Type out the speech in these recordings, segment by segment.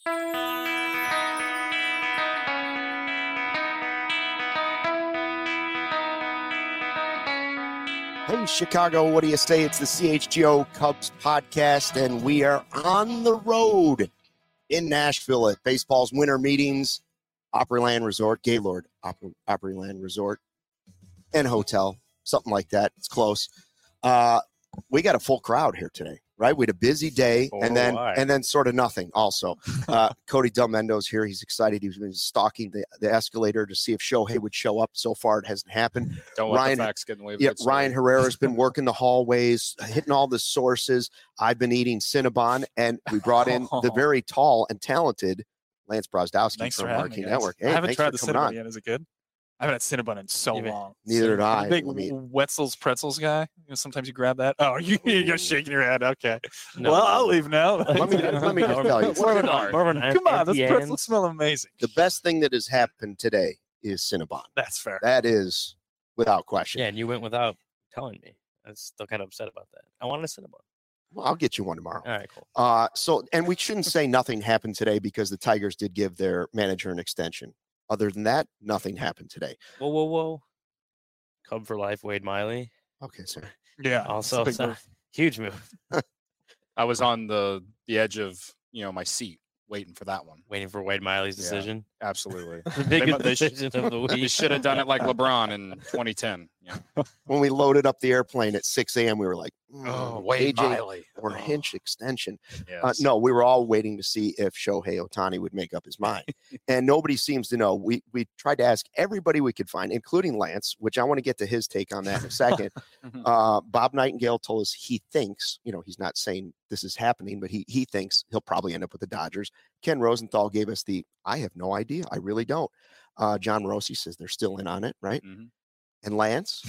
Hey, Chicago, what do you say? It's the CHGO Cubs podcast, and we are on the road in Nashville at baseball's winter meetings, Opryland Resort, Gaylord Opryland Resort and Hotel, something like that. It's close. We got a full crowd here today, right? We had a busy day, and then sort of nothing also. Cody Delmendo's here. He's excited. He's been stalking the escalator to see if Shohei would show up. So far, it hasn't happened. Don't let the facts get in the way of it. Ryan Herrera's been working the hallways, hitting all the sources. I've been eating Cinnabon, and we brought in the very tall and talented Lance Brozdowski from Marquee Network. Hey, I haven't tried the Cinnabon yet. Is it good? I haven't had Cinnabon in so long. Neither did I. Big Wetzel's Pretzels guy. You know, sometimes you grab that. Oh, you're shaking your head. Okay. No. Well, I'll leave now. Let me just tell you. Come on, those pretzels smell amazing. The best thing that has happened today is Cinnabon. That's fair. That is without question. Yeah, and you went without telling me. I'm still kind of upset about that. I wanted a Cinnabon. Well, I'll get you one tomorrow. All right, cool. And we shouldn't say nothing happened today because the Tigers did give their manager an extension. Other than that, nothing happened today. Whoa. Cub for life, Wade Miley. Okay, sir. Yeah. Also, huge move. I was on the edge of, my seat waiting for that one. Waiting for Wade Miley's decision. Yeah, absolutely. The biggest decision of the week. They should have done it like LeBron in 2010. Yeah. When we loaded up the airplane at 6 a.m., we were like, Wade AJ Miley. Or Hinch extension. Yes. No, we were all waiting to see if Shohei Ohtani would make up his mind. And nobody seems to know. We tried to ask everybody we could find, including Lance, which I want to get to his take on that in a second. Bob Nightingale told us he thinks, he's not saying this is happening, but he thinks he'll probably end up with the Dodgers. Ken Rosenthal gave us I have no idea. I really don't. John Morosi says they're still in on it, right? Mm-hmm. And Lance?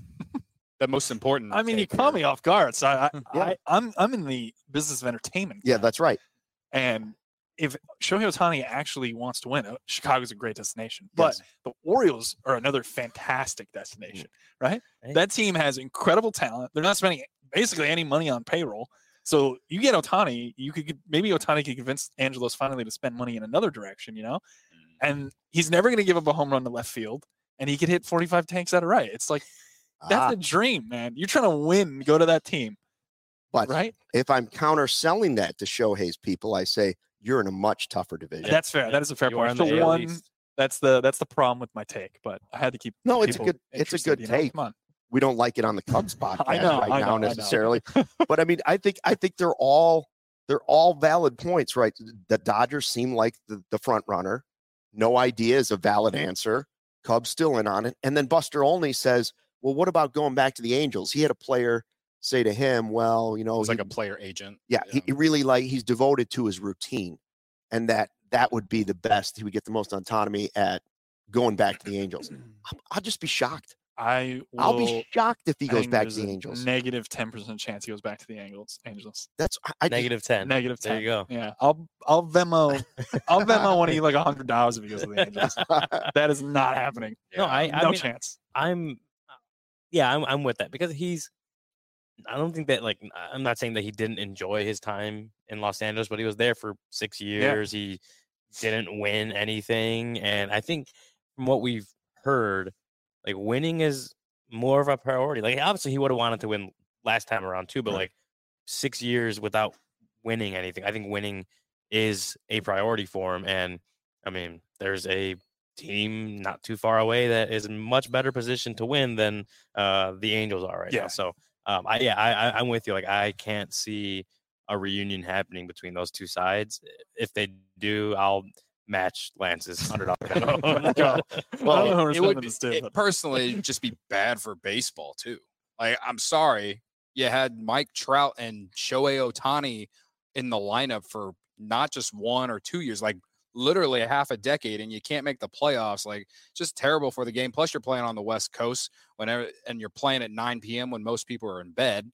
The most important. I mean, you caught me off guard. So I'm in the business of entertainment. Yeah, that's right. And if Shohei Ohtani actually wants to win, Chicago's a great destination. But the Orioles are another fantastic destination, right? Hey. That team has incredible talent. They're not spending basically any money on payroll. So you get Ohtani, maybe Ohtani could convince Angelos finally to spend money in another direction, And he's never going to give up a home run to left field, and he could hit 45 tanks out of right. It's like that's a dream, man. You're trying to win, go to that team. But right? If I'm counterselling that to Shohei's people, I say you're in a much tougher division. That's fair. That is a fair point. So one, that's the problem with my take, but I had to keep. No, it's a good take. Come on. We don't like it on the Cubs podcast I know now necessarily. But I mean, I think they're all valid points, right? The Dodgers seem like the front runner. No idea is a valid answer. Cubs still in on it. And then Buster Olney says, well, what about going back to the Angels? He had a player say to him, well, it's like a player agent. Yeah. He really he's devoted to his routine, and that would be the best. He would get the most autonomy at going back to the Angels. I'll just be shocked. I'll be shocked if he goes back to the Angels. Negative 10% chance he goes back to the Angels. That's negative 10. Negative 10. There you go. Yeah, I'll Venmo one of you like $100 if he goes to the Angels. That is not happening. No, no chance. I'm with that because I don't think that I'm not saying that he didn't enjoy his time in Los Angeles, but he was there for 6 years. Yeah. He didn't win anything, and I think from what we've heard, winning is more of a priority. Obviously he would have wanted to win last time around too, but 6 years without winning anything, I think winning is a priority for him. And I mean, there's a team not too far away that is in much better position to win than the Angels are right now. So I'm with you. I can't see a reunion happening between those two sides. If they do, I'll match Lance's $100. Well, it would personally just be bad for baseball too. I'm sorry, you had Mike Trout and Shohei Ohtani in the lineup for not just 1 or 2 years, literally a half a decade, and you can't make the playoffs. Just terrible for the game. Plus, you're playing on the West Coast and you're playing at 9 p.m. when most people are in bed.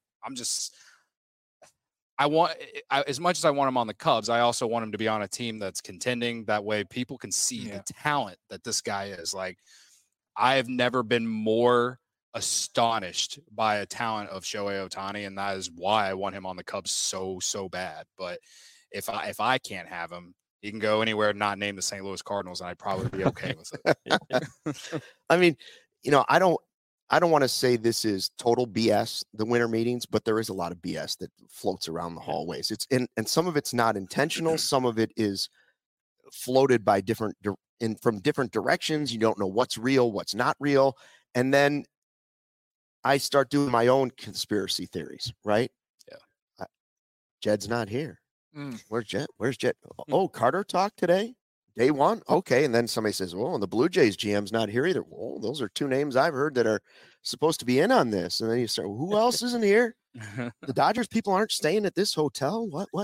As much as I want him on the Cubs, I also want him to be on a team that's contending. That way people can see the talent that this guy is. I have never been more astonished by a talent of Shohei Ohtani, and that is why I want him on the Cubs so bad. But if I can't have him, he can go anywhere not named the St. Louis Cardinals, and I'd probably be okay with it. I mean, I don't want to say this is total BS, the winter meetings, but there is a lot of BS that floats around the hallways. And some of it's not intentional. Some of it is floated by from different directions. You don't know what's real, what's not real. And then I start doing my own conspiracy theories, right? Yeah. Jed's not here. Where's Jed? Oh, Carter talked today? Day one? Okay. And then somebody says, well, the Blue Jays GM's not here either. Well, those are two names I've heard that are supposed to be in on this. And then you start, who else isn't here? The Dodgers people aren't staying at this hotel? What?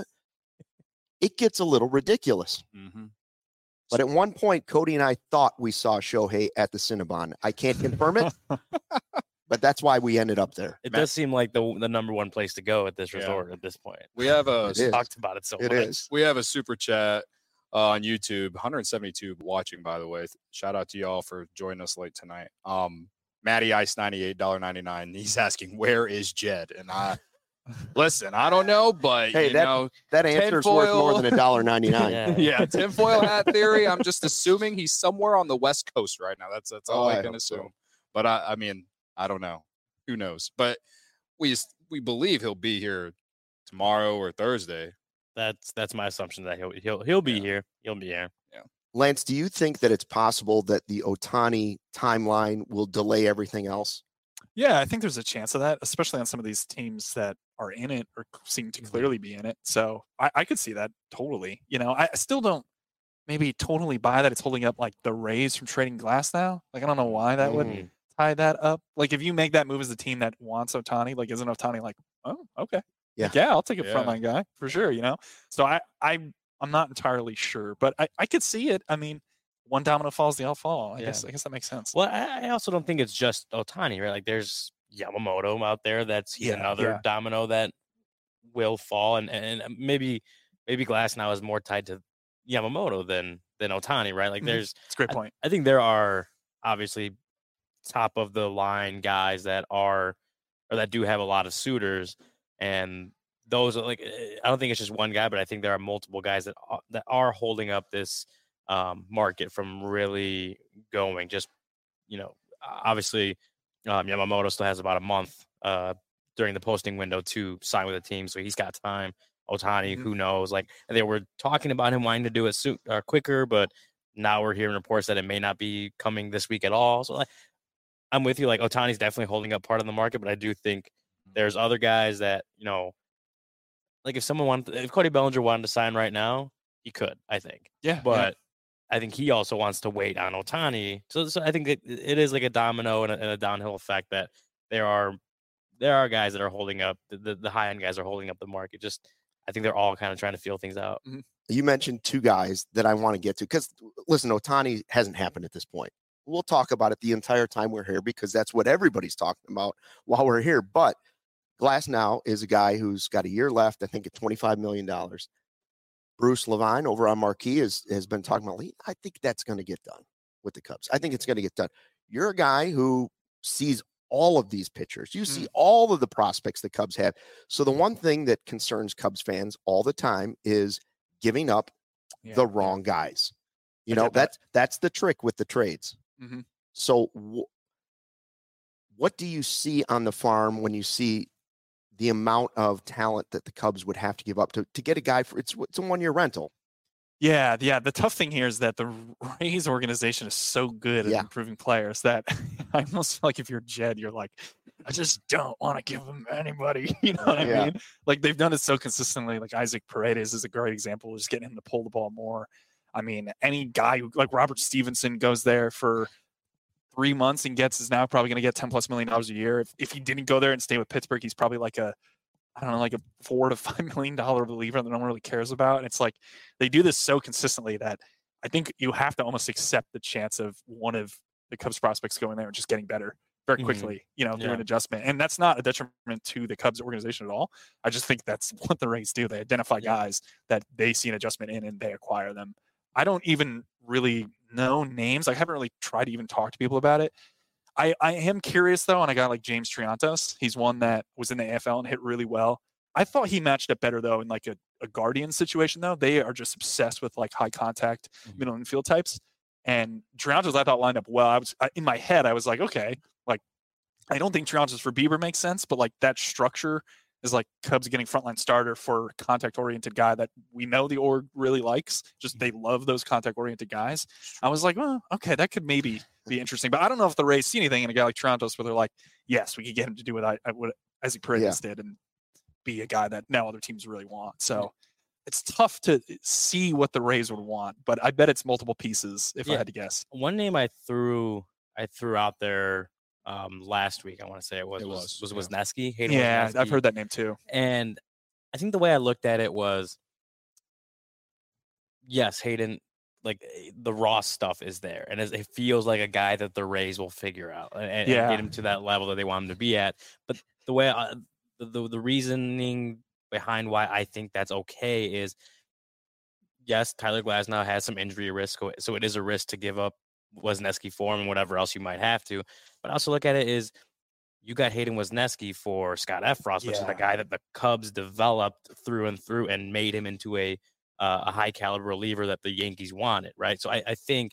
It gets a little ridiculous. Mm-hmm. But at one point, Cody and I thought we saw Shohei at the Cinnabon. I can't confirm it, but that's why we ended up there. It does seem like the number one place to go at this resort at this point. We have talked about it so much. It is. We have a super chat on YouTube, 172 watching, by the way. Shout out to y'all for joining us late tonight. Matty Ice 98, $1.99. He's asking, where is Jed? And listen, I don't know, but hey, that answer is worth more than $1.99. Yeah, tinfoil hat theory. I'm just assuming he's somewhere on the West Coast right now. That's all I can assume. So. But I mean, I don't know. Who knows? But we believe he'll be here tomorrow or Thursday. That's my assumption that he'll be here. He'll be here. Yeah. Lance, do you think that it's possible that the Ohtani timeline will delay everything else? Yeah, I think there's a chance of that, especially on some of these teams that are in it or seem to clearly be in it. So I could see that totally. I still don't maybe totally buy that it's holding up like the Rays from trading Glass now. Like, I don't know why that would tie that up. Like, if you make that move as the team that wants Ohtani, like, isn't Ohtani like, oh, okay. Yeah. Like, yeah, I'll take a frontline guy for sure, So I'm not entirely sure, but I could see it. I mean, one domino falls, they all fall. I guess that makes sense. Well, I also don't think it's just Ohtani, right? Like, there's Yamamoto out there. He's another domino that will fall, and maybe Glass now is more tied to Yamamoto than Ohtani, right? Like, that's a great point. I think there are obviously top of the line guys that do have a lot of suitors, and those are like, I don't think it's just one guy, but I think there are multiple guys that are holding up this market from really going. Just, obviously Yamamoto still has about a month during the posting window to sign with a team, so he's got time. Ohtani, who knows? Like, they were talking about him wanting to do it quicker, but now we're hearing reports that it may not be coming this week at all. So, like, I'm with you. Like, Ohtani's definitely holding up part of the market, but I do think there's other guys that, like, if Cody Bellinger wanted to sign right now, he could, I think. Yeah. But I think he also wants to wait on Ohtani. So I think it is like a domino and a downhill effect that there are guys that are holding up, the high end guys are holding up the market. Just, I think they're all kind of trying to feel things out. Mm-hmm. You mentioned two guys that I want to get to because, listen, Ohtani hasn't happened at this point. We'll talk about it the entire time we're here because that's what everybody's talking about while we're here. But Glass now is a guy who's got a year left, I think at $25 million. Bruce Levine over on Marquee has been talking about, I think that's going to get done with the Cubs. I think it's going to get done. You're a guy who sees all of these pitchers. You see all of the prospects the Cubs have. So the one thing that concerns Cubs fans all the time is giving up the wrong guys. That's the trick with the trades. Mm-hmm. So what do you see on the farm when you see the amount of talent that the Cubs would have to give up to get a guy for it's a 1-year rental? Yeah. The tough thing here is that the Rays organization is so good at improving players that I almost feel like if you're Jed, you're like, I just don't want to give them anybody. You know what I mean? Like, they've done it so consistently. Like, Isaac Paredes is a great example of just getting him to pull the ball more. I mean, any guy who, like Robert Stevenson, goes there for 3 months and is now probably going to get $10+ million a year. If he didn't go there and stay with Pittsburgh, he's probably like a $4 to $5 million reliever that no one really cares about. And it's like, they do this so consistently that I think you have to almost accept the chance of one of the Cubs prospects going there and just getting better very quickly, through an adjustment. And that's not a detriment to the Cubs organization at all. I just think that's what the Rays do. They identify guys that they see an adjustment in and they acquire them. I don't even really know names. I haven't really tried to even talk to people about it. I am curious, though, on a guy like James Triantos. He's one that was in the AFL and hit really well. I thought he matched up better, though, in like a a Guardian situation though. They are just obsessed with like high contact middle infield types. And Triantos I thought lined up well. In my head I was like, okay, like I don't think Triantos for Bieber makes sense, but like that structure is like Cubs getting frontline starter for contact-oriented guy that we know the org really likes. Just they love those contact-oriented guys. I was like, well, okay, that could maybe be interesting. But I don't know if the Rays see anything in a guy like Triantos where they're like, yes, we could get him to do what Ezzy Paredes did and be a guy that now other teams really want. So it's tough to see what the Rays would want, but I bet it's multiple pieces if I had to guess. One name I threw out there last week, I want to say it was Wesneski. Yeah, I've heard that name too. And I think the way I looked at it was, yes, Hayden, like the raw stuff is there, and it feels like a guy that the Rays will figure out and get him to that level that they want him to be at. But the way the reasoning behind why I think that's okay is, yes, Tyler Glasnow has some injury risk, so it is a risk to give up Wesneski for him and whatever else you might have to. But I also look at it as you got Hayden Wesneski for Scott Effross, which is the guy that the Cubs developed through and through and made him into a high caliber reliever that the Yankees wanted, right? So I think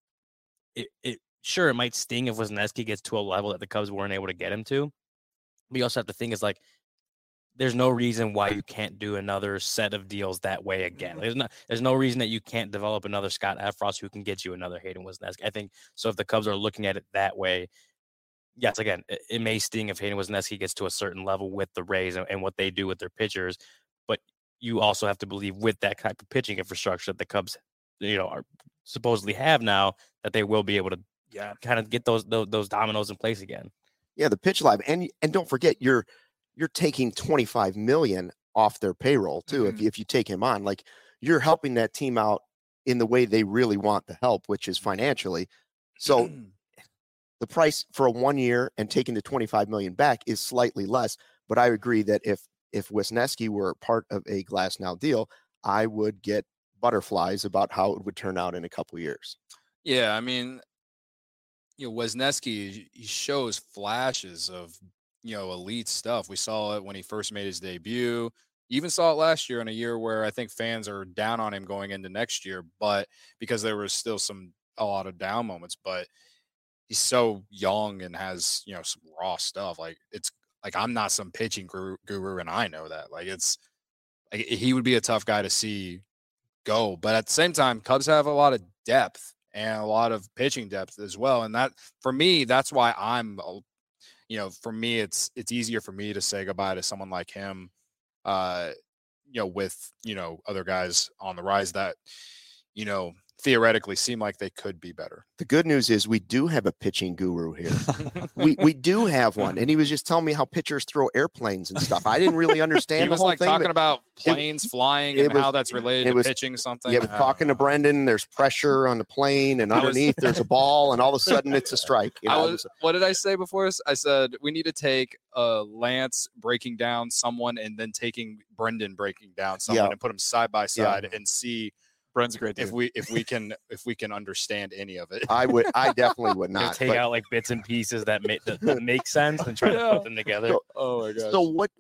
it might sting if Wesneski gets to a level that the Cubs weren't able to get him to. But you also have to think is like, there's no reason why you can't do another set of deals that way again. There's no reason that you can't develop another Scott Effross who can get you another Hayden Wesneski. I think so. If the Cubs are looking at it that way, yes, again, it may sting if Hayden Wesneski gets to a certain level with the Rays and what they do with their pitchers, but you also have to believe with that type of pitching infrastructure that the Cubs, are supposedly have now, that they will be able to kind of get those dominoes in place again. Yeah, the pitch live, and don't forget you're taking $25 million off their payroll too. If you take him on, like you're helping that team out in the way they really want the help, which is financially. So the price for a 1 year and taking the $25 million back is slightly less. But I agree that if Wesneski were part of a Glasnow deal, I would get butterflies about how it would turn out in a couple years. Yeah, I mean, Wesneski, he shows flashes of elite stuff. We saw it when he first made his debut. You even saw it last year in a year where I think fans are down on him going into next year, but because there was still a lot of down moments, but he's so young and has, some raw stuff. Like it's like, I'm not some pitching guru and I know that. Like it's like he would be a tough guy to see go, but at the same time, Cubs have a lot of depth and a lot of pitching depth as well. And that, for me, that's why for me, it's easier for me to say goodbye to someone like him, with, other guys on the rise that, theoretically seem like they could be better. The good news is we do have a pitching guru here. we do have one. And he was just telling me how pitchers throw airplanes and stuff. I didn't really understand he was the whole like thing. Talking about planes flying and how that's related to pitching something. Yeah, talking to Brendan, there's pressure on the plane and underneath there's a ball and all of a sudden it's a strike. What did I say before this? I said, we need to take Lance breaking down someone and then taking Brendan breaking down someone and put them side by side and see Brent's a great dude. If we can understand any of it. I definitely would not take out like bits and pieces that make sense and try to put them together. So, oh my gosh. So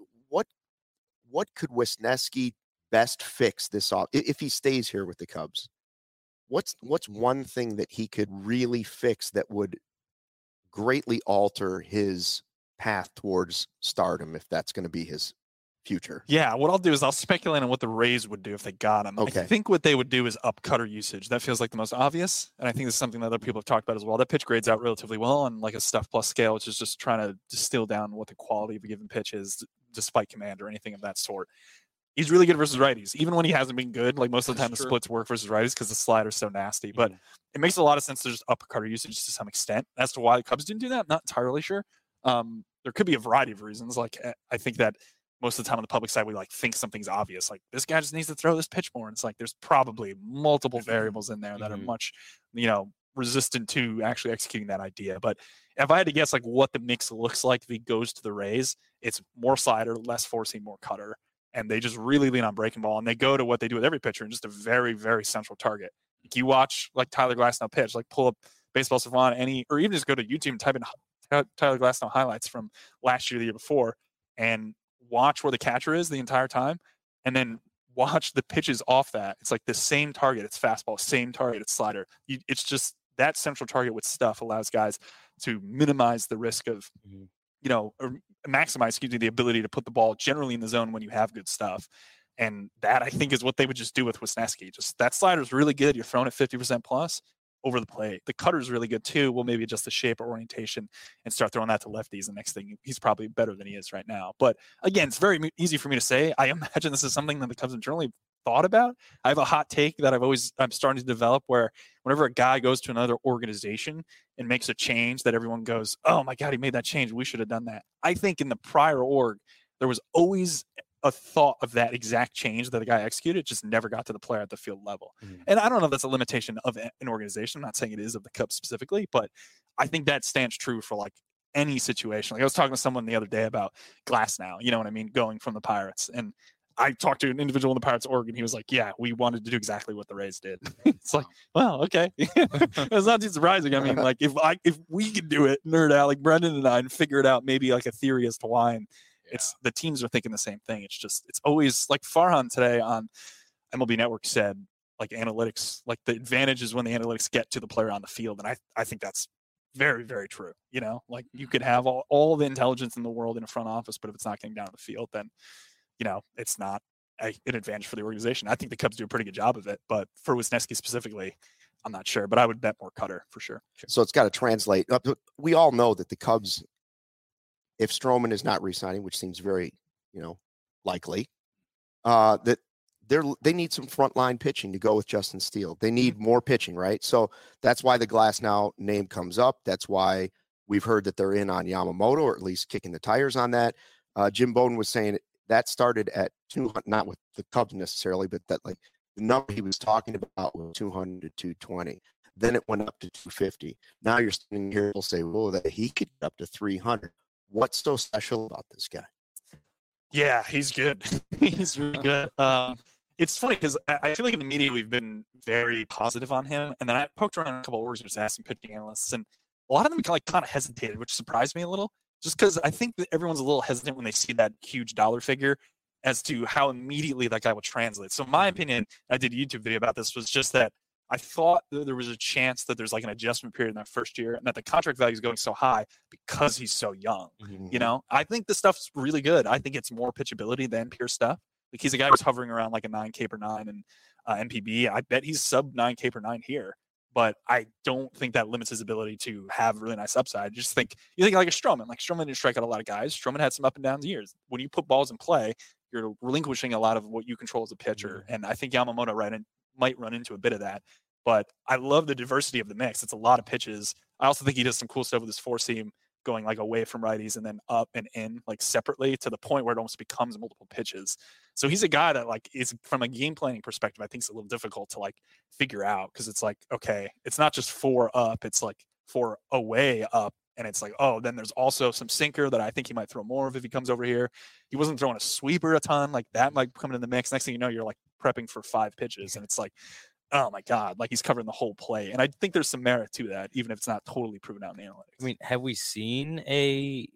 what could Wesneski best fix this off if he stays here with the Cubs? What's one thing that he could really fix that would greatly alter his path towards stardom if that's going to be his future? Yeah, what I'll do is I'll speculate on what the Rays would do if they got him. Okay. I think what they would do is up cutter usage. That feels like the most obvious, and I think this is something that other people have talked about as well. That pitch grades out relatively well on like a stuff plus scale, which is just trying to distill down what the quality of a given pitch is, despite command or anything of that sort. He's really good versus righties, even when he hasn't been good. Like most of the time, the splits work versus righties because the slider's so nasty. But it makes a lot of sense to just up cutter usage to some extent. As to why the Cubs didn't do that, not entirely sure. There could be a variety of reasons. Like I think that most of the time on the public side, we like think something's obvious. Like this guy just needs to throw this pitch more. And it's like there's probably multiple variables in there that are much, resistant to actually executing that idea. But if I had to guess, like what the mix looks like if he goes to the Rays, it's more slider, less four-seam, more cutter. And they just really lean on breaking ball, and they go to what they do with every pitcher, and just a very, very central target. Like you watch like Tyler Glasnow pitch, like pull up Baseball Savant, or even just go to YouTube and type in Tyler Glasnow highlights from last year, the year before, and watch where the catcher is the entire time, and then watch the pitches off that, it's like the same target. It's fastball, same target. It's slider. It's just that central target with stuff allows guys to minimize the risk of, or maximize, the ability to put the ball generally in the zone when you have good stuff. And that, I think, is what they would just do with Wisniewski. Just that slider is really good. You're throwing it 50% plus over the plate. The cutter is really good too. We'll maybe adjust the shape or orientation and start throwing that to lefties. The next thing, he's probably better than he is right now. But again, it's very easy for me to say. I imagine this is something that the Cubs internally thought about. I have a hot take that I'm starting to develop, where whenever a guy goes to another organization and makes a change that everyone goes, oh my God, he made that change, we should have done that. I think in the prior org, there was always a thought of that exact change that the guy executed. It just never got to the player at the field level. And I don't know if that's a limitation of an organization. I'm not saying it is of the Cubs specifically, but I think that stands true for like any situation. Like I was talking to someone the other day about Glasnow, you know what I mean, going from the Pirates. And I talked to an individual in the Pirates org, and he was like, yeah, we wanted to do exactly what the Rays did. It's like, well, okay. It's not too surprising. I mean, like if we could do it, nerd out like Brendan and I, and figure it out, maybe like a theory as to why. And it's the teams are thinking the same thing. It's always like Farhan today on MLB Network said, like analytics, like the advantage is when the analytics get to the player on the field. And I think that's very, very true. Like you could have all the intelligence in the world in a front office, but if it's not getting down to the field, then, it's not an advantage for the organization. I think the Cubs do a pretty good job of it, but for Wisniewski specifically, I'm not sure, but I would bet more cutter for sure. So it's got to translate. We all know that the Cubs, if Stroman is not re-signing, which seems very, likely, that they need some frontline pitching to go with Justin Steele. They need more pitching, right? So that's why the Glasnow name comes up. That's why we've heard that they're in on Yamamoto, or at least kicking the tires on that. Jim Bowden was saying that started at 200, not with the Cubs necessarily, but that like the number he was talking about was 200 to 220. Then it went up to 250. Now you're sitting here, we'll say, well, that he could get up to 300. What's so special about this guy? Yeah, he's good. He's really good. It's funny because I feel like in the media we've been very positive on him, and then I poked around a couple of orgs and just asked some pitching analysts, and a lot of them kind of hesitated, which surprised me a little, just because I think that everyone's a little hesitant when they see that huge dollar figure as to how immediately that guy will translate. So my opinion, I did a YouTube video about this, was just that I thought that there was a chance that there's like an adjustment period in that first year, and that the contract value is going so high because he's so young. I think the stuff's really good. I think it's more pitchability than pure stuff. Like he's a guy who's hovering around like a 9K per 9 and NPB. I bet he's sub 9K per 9 here, but I don't think that limits his ability to have really nice upside. You think like a Stroman. Like Stroman didn't strike out a lot of guys. Stroman had some up and down years. When you put balls in play, you're relinquishing a lot of what you control as a pitcher. And I think Yamamoto might run into a bit of that. But I love the diversity of the mix. It's a lot of pitches. I also think he does some cool stuff with his four seam, going like away from righties and then up and in like separately, to the point where it almost becomes multiple pitches. So he's a guy that like is, from a game planning perspective, I think it's a little difficult to like figure out, because it's like, okay, it's not just 4 up, it's like 4 away up. And it's like, oh, then there's also some sinker that I think he might throw more of if he comes over here. He wasn't throwing a sweeper a ton. Like that might come in the mix. Next thing you know, you're like prepping for 5 pitches. And it's like, oh my God, like he's covering the whole play. And I think there's some merit to that, even if it's not totally proven out in the analytics. I mean, have we seen a,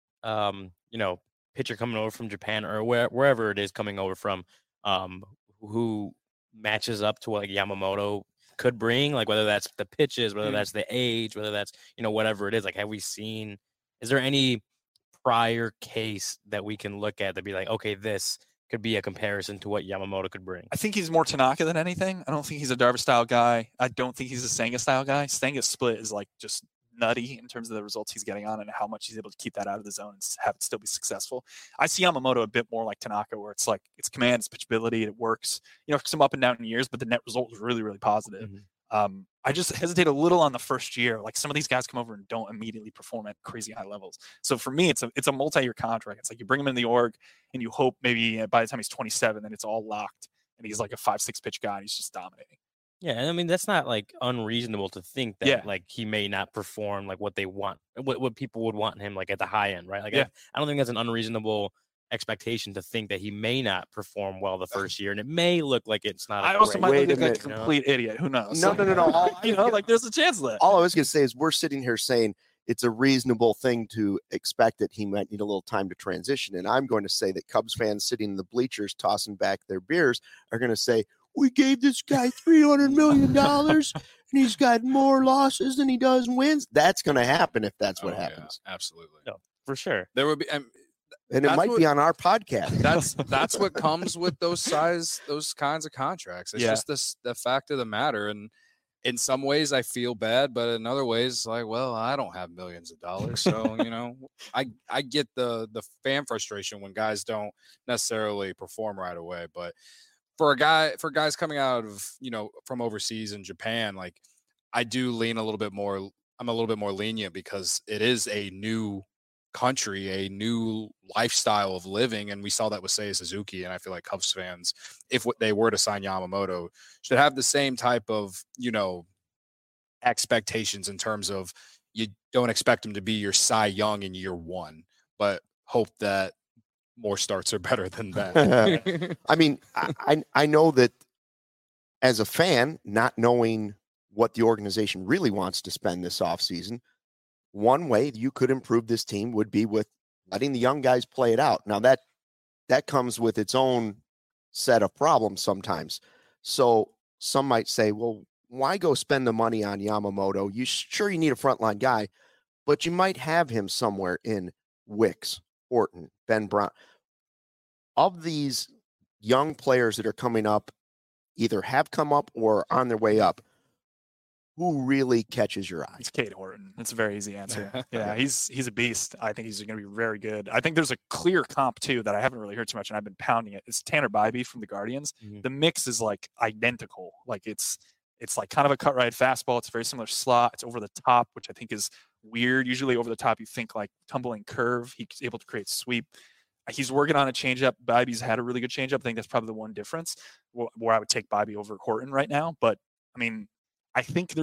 pitcher coming over from Japan or wherever it is coming over from, who matches up to what like Yamamoto could bring, like whether that's the pitches, whether that's the age, whether that's, whatever it is, like, have we seen, is there any prior case that we can look at that be like, okay, this could be a comparison to what Yamamoto could bring? I think he's more Tanaka than anything. I don't think he's a Darvish style guy. I don't think he's a Senga style guy. Senga's split is like just nutty in terms of the results he's getting on and how much he's able to keep that out of the zone and have it still be successful. I see Yamamoto a bit more like Tanaka, where it's like it's command, it's pitchability, it works, some up and down in years, but the net result was really, really positive. I just hesitate a little on the first year. Like some of these guys come over and don't immediately perform at crazy high levels. So for me, it's a multi-year contract. It's like you bring him in the org and you hope maybe by the time he's 27, then it's all locked and he's like a 5-6 pitch guy and he's just dominating. Yeah, and I mean that's not like unreasonable to think that like he may not perform like what they want, what people would want him like at the high end, right? Like I don't think that's an unreasonable expectation to think that he may not perform well the first year, and it may look like it's not. I also might look like a complete idiot. Who knows? No. Like there's a chance of that. All I was going to say is we're sitting here saying it's a reasonable thing to expect that he might need a little time to transition. And I'm going to say that Cubs fans sitting in the bleachers tossing back their beers are going to say, we gave this guy $300 million and he's got more losses than he does wins. That's going to happen if that's what happens. Yeah, absolutely. No, for sure. There would be, and it might be on our podcast. That's what comes with those kinds of contracts. It's just the fact of the matter. And in some ways I feel bad, but in other ways, like, well, I don't have millions of dollars. So, I get the fan frustration when guys don't necessarily perform right away. But for guys coming out of, from overseas in Japan, like, I do lean a little bit more. I'm a little bit more lenient because it is a new country, a new lifestyle of living, and we saw that with Seiya Suzuki. And I feel like Cubs fans, if they were to sign Yamamoto, should have the same type of expectations in terms of, you don't expect him to be your Cy Young in year one, but hope that more starts are better than that. I mean, I know that as a fan, not knowing what the organization really wants to spend this offseason, one way you could improve this team would be with letting the young guys play it out. Now that comes with its own set of problems sometimes. So some might say, well, why go spend the money on Yamamoto? You need a frontline guy, but you might have him somewhere in Wicks, Horton, Ben Brown. Of these young players that are coming up, either have come up or are on their way up, who really catches your eye? It's Cade Horton. That's a very easy answer. Yeah, he's a beast. I think he's going to be very good. I think there's a clear comp too that I haven't really heard too much, and I've been pounding it. It's Tanner Bybee from the Guardians. Mm-hmm. The mix is like identical. Like it's like kind of a cut right fastball. It's a very similar slot. It's over the top, which I think is weird. Usually over the top, you think like tumbling curve. He's able to create sweep. He's working on a changeup. Bybee's had a really good changeup. I think that's probably the one difference where I would take Bybee over Horton right now. But I mean, I think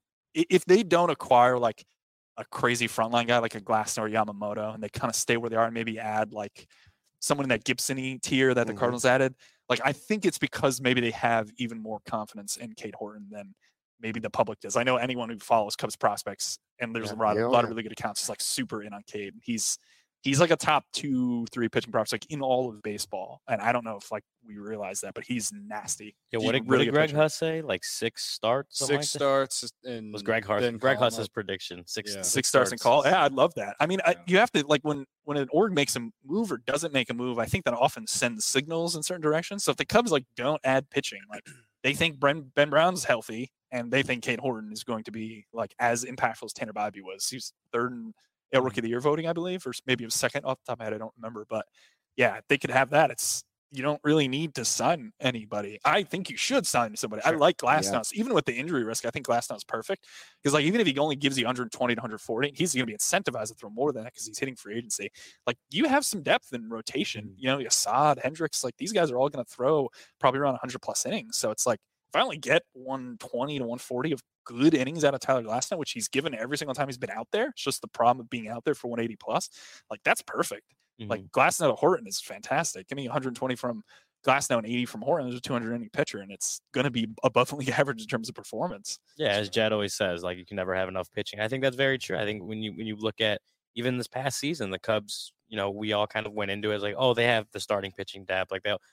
if they don't acquire like a crazy frontline guy like a Glasnow or Yamamoto, and they kind of stay where they are and maybe add like someone in that Gibson-y tier that the Cardinals added, like I think it's because maybe they have even more confidence in Cade Horton than maybe the public does. I know anyone who follows Cubs prospects, and there's a lot of really good accounts, is like super in on Cade. He's like a top 2-3 pitching prospect in all of baseball. And I don't know if like we realize that, but he's nasty. Yeah, what did Greg Huss say? Like 6 starts? Six starts. And was Greg Huss's prediction. Six starts in call. Yeah, I'd love that. I mean, you have to, like, when an org makes a move or doesn't make a move, I think that often sends signals in certain directions. So if the Cubs like don't add pitching, like they think Ben Brown's healthy and they think Cade Horton is going to be like as impactful as Tanner Bybee was. He's third in Rookie of the Year voting, I believe, or maybe it was second off the top of my head. I don't remember, but yeah, they could have that. You don't really need to sign anybody. I think you should sign somebody. Sure. I like Glasnow. Even with the injury risk, I think Glasnow's perfect because like even if he only gives you 120 to 140, he's going to be incentivized to throw more than that because he's hitting free agency. Like you have some depth in rotation. Assad, Hendricks, like these guys are all going to throw probably around 100 plus innings. So it's like if I only get 120 to 140 of good innings out of Tyler Glasnow, which he's given every single time he's been out there. It's just the problem of being out there for 180 plus. Like that's perfect. Mm-hmm. Like Glasnow to Horton is fantastic. Give me 120 from Glasnow and 80 from Horton. There's a 200 inning pitcher, and it's going to be above league average in terms of performance. Yeah, as Jed always says, like you can never have enough pitching. I think that's very true. I think when you look at even this past season, the Cubs, we all kind of went into it as like, oh, they have the starting pitching depth,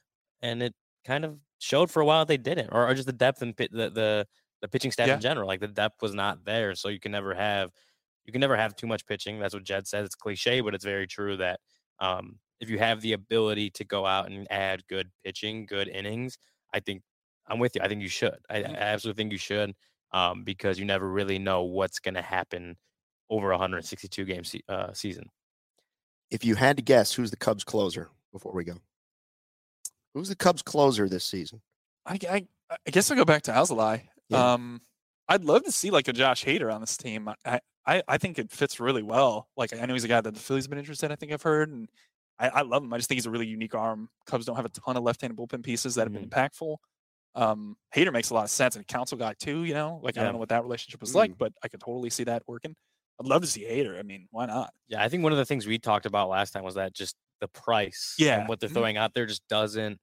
and it kind of showed for a while they didn't, or just the depth and the pitching staff in general, like the depth was not there. So you can never have too much pitching. That's what Jed says. It's cliche, but it's very true that if you have the ability to go out and add good pitching, good innings, I think I'm with you. I think you should. I absolutely think you should because you never really know what's going to happen over a 162 game season. If you had to guess, who's the Cubs closer before we go? Who's the Cubs closer this season? I guess I'll go back to Alzolay. Yeah. I'd love to see like a Josh Hader on this team. I think it fits really well. Like I know he's a guy that the Phillies have been interested in, I think I've heard, and I love him. I just think he's a really unique arm. Cubs don't have a ton of left-handed bullpen pieces that have been impactful. Hader makes a lot of sense, and a council guy too, I don't know what that relationship was like, but I could totally see that working. I'd love to see Hader. I mean, why not? Yeah, I think one of the things we talked about last time was that just the price and what they're throwing out there just doesn't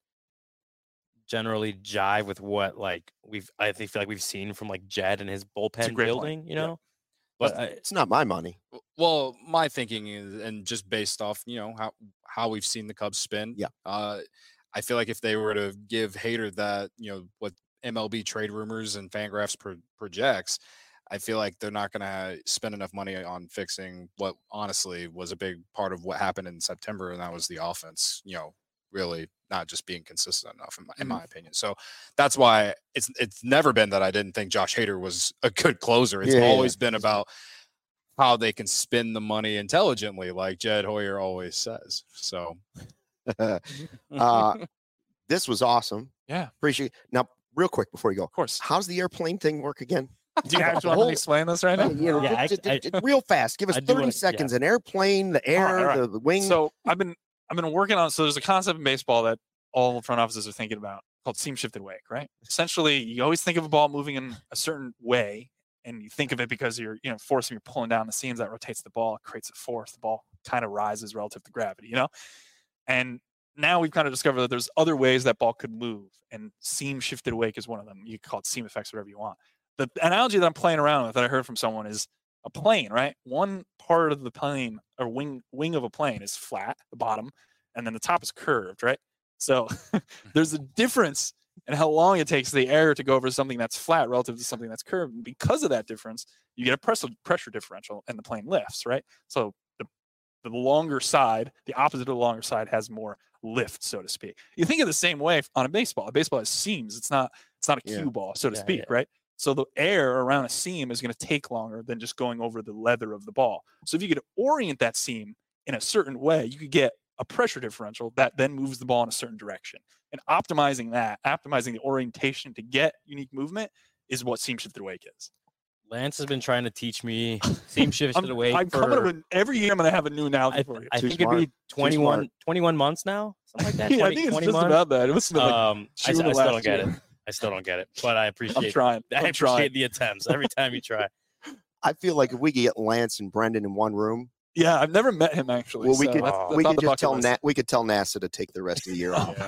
generally jive with what like I feel like we've seen from like Jed and his bullpen building, But it's not my money. Well, my thinking is, and just based off, how we've seen the Cubs spin. Yeah. I feel like if they were to give Hader that, what MLB trade rumors and Fangraphs projects, I feel like they're not going to spend enough money on fixing what honestly was a big part of what happened in September, and that was the offense. Really not just being consistent enough, in my opinion. So that's why it's never been that I didn't think Josh Hader was a good closer. It's always been about how they can spend the money intelligently, like Jed Hoyer always says. So this was awesome. Yeah. Appreciate it. Now, real quick before you go, of course, how's the airplane thing work again? Do you actually want to explain this right now? Real fast. Give us 30 seconds. An airplane, the air, right. the wing. So I've been working on. So there's a concept in baseball that all front offices are thinking about called seam shifted wake. Right. Essentially, you always think of a ball moving in a certain way, and you think of it because you're forcing, you're pulling down the seams that rotates the ball, it creates a force. The ball kind of rises relative to gravity. And now we've kind of discovered that there's other ways that ball could move, and seam shifted wake is one of them. You can call it seam effects, whatever you want. The analogy that I'm playing around with that I heard from someone is a plane, right? One part of the plane or wing of a plane is flat, the bottom, and then the top is curved, right? So there's a difference in how long it takes the air to go over something that's flat relative to something that's curved. And because of that difference, you get a pressure differential and the plane lifts, right? So the longer side, the opposite of the longer side, has more lift, so to speak. You think of the same way on a baseball. A baseball has seams. It's not a cue ball, so to speak, right? So the air around a seam is going to take longer than just going over the leather of the ball. So if you could orient that seam in a certain way, you could get a pressure differential that then moves the ball in a certain direction. And optimizing the orientation to get unique movement is what seam shifted wake is. Lance has been trying to teach me seam shifted wake. Every year I'm going to have a new analogy for you. I think it'd be 21 months now, something like that. 20, I think it's 20 just months. about that. It was I still don't get it. I still don't get it, but I appreciate. I appreciate the attempts every time you try. I feel like if we could get Lance and Brendan in one room. Yeah, I've never met him actually. Well, we could just tell we could tell NASA to take the rest of the year off.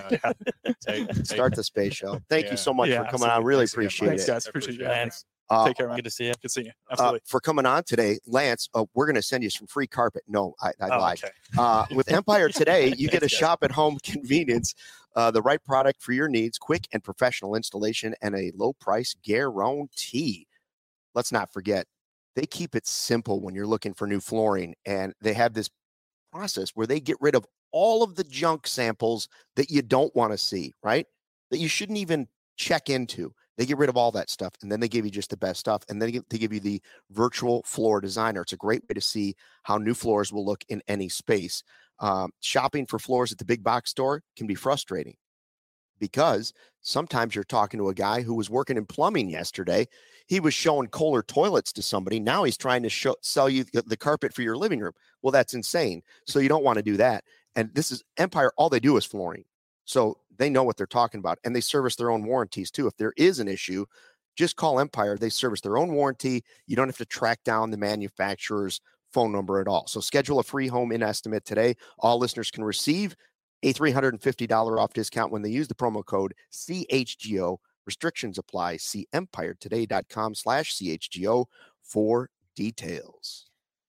Start the space show. Thank you so much for coming on. Really appreciate Thanks, it. guys. Appreciate you. Lance, take care, man. Good to see you. Good to see you. Absolutely. For coming on today, Lance, we're going to send you some free carpet. No, I lied. Okay. With Empire Today, you get a shop-at-home convenience, the right product for your needs, quick and professional installation, and a low-price guarantee. Let's not forget, they keep it simple when you're looking for new flooring, and they have this process where they get rid of all of the junk samples that you don't want to see, right? That you shouldn't even check into. They get rid of all that stuff, and then they give you just the best stuff, and then they give you the virtual floor designer. It's a great way to see how new floors will look in any space. Shopping for floors at the big box store can be frustrating because sometimes you're talking to a guy who was working in plumbing yesterday. He was showing Kohler toilets to somebody. Now he's trying to sell you the carpet for your living room. Well, that's insane. So you don't want to do that. And this is Empire. All they do is flooring. So they know what they're talking about, and they service their own warranties too. If there is an issue, just call Empire. They service their own warranty. You don't have to track down the manufacturer's phone number at all. So schedule a free home in estimate today. All listeners can receive a $350 off discount when they use the promo code CHGO. Restrictions apply. See empiretoday.com/CHGO for details.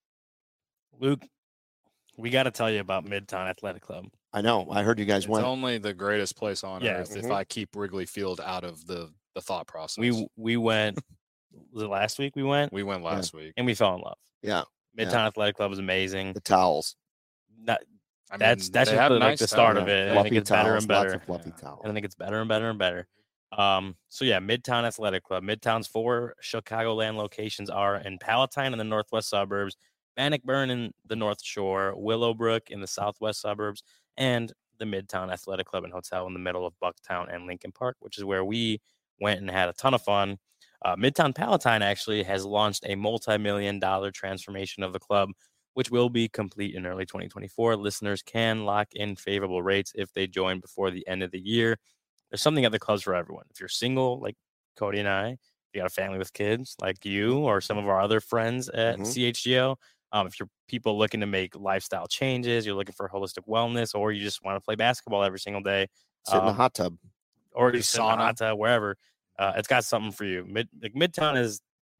Luke, we got to tell you about Midtown Athletic Club. I know. I heard you guys went. It's only the greatest place on earth if I keep Wrigley Field out of the thought process. We went. Was it last week? We went last week, and we fell in love. Yeah. Midtown Athletic Club is amazing. The towels. That's just like the start of it. I think it's better and better. Fluffy towels. And I think it's better and better and better. So yeah, Midtown Athletic Club. Midtown's 4 Chicagoland locations are in Palatine in the northwest suburbs, Bannockburn in the North Shore, Willowbrook in the southwest suburbs, and the Midtown Athletic Club and Hotel in the middle of Bucktown and Lincoln Park, which is where we went and had a ton of fun. Midtown Palatine actually has launched a multi-million-dollar transformation of the club, which will be complete in early 2024. Listeners can lock in favorable rates if they join before the end of the year. There's something at the clubs for everyone. If you're single, like Cody and I, if you got a family with kids, like you or some of our other friends at CHGO, if you're people looking to make lifestyle changes, you're looking for holistic wellness, or you just want to play basketball every single day, sit in the hot tub, or you sit in the hot tub, wherever, it's got something for you. Midtown is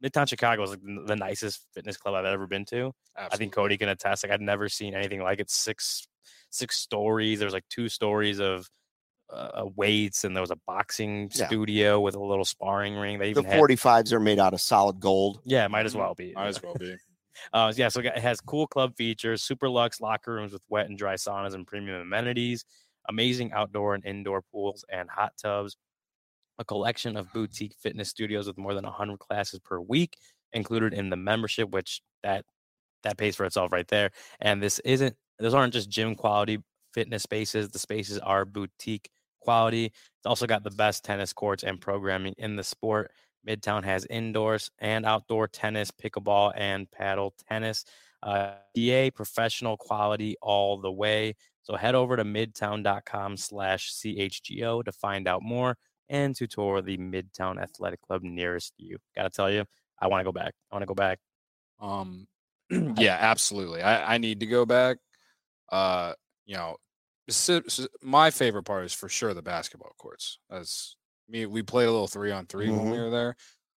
Midtown Chicago is like the nicest fitness club I've ever been to. Absolutely. I think Cody can attest. Like I'd never seen anything like it. Six stories. There's like 2 stories of weights, and there was a boxing studio with a little sparring ring. They even the 45s are made out of solid gold. Yeah, it might as well be. Might as well be. Yeah, so it has cool club features, super luxe locker rooms with wet and dry saunas and premium amenities, amazing outdoor and indoor pools and hot tubs, a collection of boutique fitness studios with more than 100 classes per week included in the membership, which that pays for itself right there. And those aren't just gym quality fitness spaces. The spaces are boutique quality. It's also got the best tennis courts and programming in the sport. Midtown has indoors and outdoor tennis, pickleball, and paddle tennis. DA professional quality all the way. So head over to midtown.com/CHGO to find out more and to tour the Midtown Athletic Club nearest you. Got to tell you, I want to go back. Yeah, absolutely. I need to go back. My favorite part is for sure the basketball courts. We played a little 3-on-3 when we were there.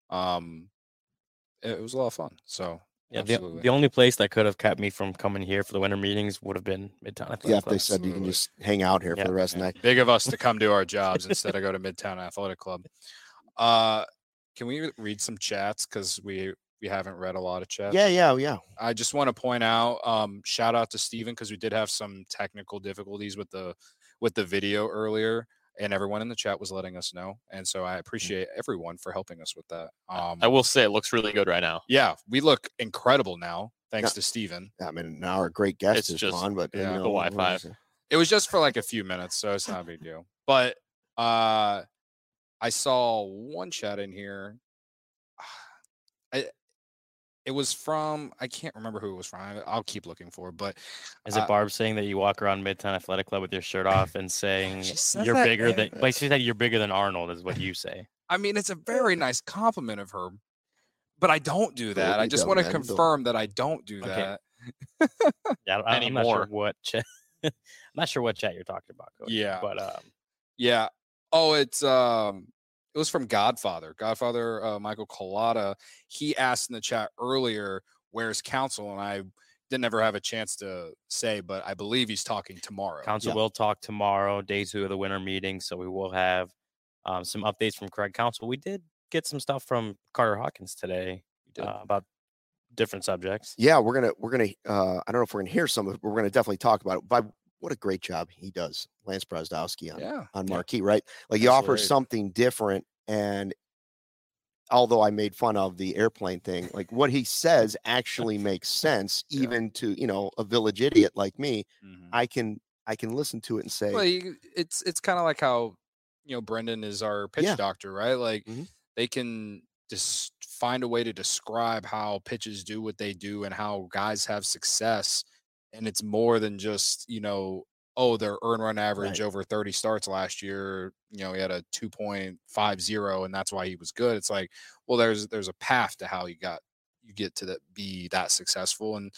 It was a lot of fun. So yeah, the only place that could have kept me from coming here for the winter meetings would have been Midtown Athletic Club. Yeah, if they said you can just hang out here for the rest of the night. Big of us to come do our jobs instead of go to Midtown Athletic Club. Can we read some chats, because we haven't read a lot of chats? Yeah. I just want to point out, shout out to Steven, because we did have some technical difficulties with the video earlier, and everyone in the chat was letting us know. And so I appreciate everyone for helping us with that. I will say it looks really good right now. Yeah, we look incredible now, thanks to Steven. I mean, now our great guest is on, but the Wi-Fi. It was just for like a few minutes, so it's not a big deal. But I saw one chat in here. It was from, I can't remember who it was from. I'll keep looking for it. But is it Barb saying that you walk around Midtown Athletic Club with your shirt off and saying you're bigger than? Like she said, you're bigger than Arnold, is what you say. I mean, it's a very nice compliment of her, but I don't do that. I just want to confirm that I don't do that. Yeah, I'm not sure what chat. I'm not sure what chat you're talking about, Coach. Yeah, but yeah. Oh, it was from Godfather Michael Collada. He asked in the chat earlier, where's Council? And I didn't ever have a chance to say, but I believe he's talking tomorrow. Council will talk tomorrow, day 2 of the winter meeting. So we will have some updates from Craig Council. We did get some stuff from Carter Hawkins today about different subjects. Yeah, we're gonna I don't know if we're gonna hear some of it, but we're gonna definitely talk about it. But what a great job he does, Lance Brazdowski on Marquee, right? Like he offers something different. And although I made fun of the airplane thing, like what he says actually makes sense, even to, a village idiot like me. I can listen to it and say, well, it's kind of like how, Brendan is our pitch doctor, right? Like they can just find a way to describe how pitches do what they do and how guys have success. And it's more than just, their earn run average over 30 starts last year, he had a 2.50 and that's why he was good. It's like, well, there's a path to how you get to be that successful. And,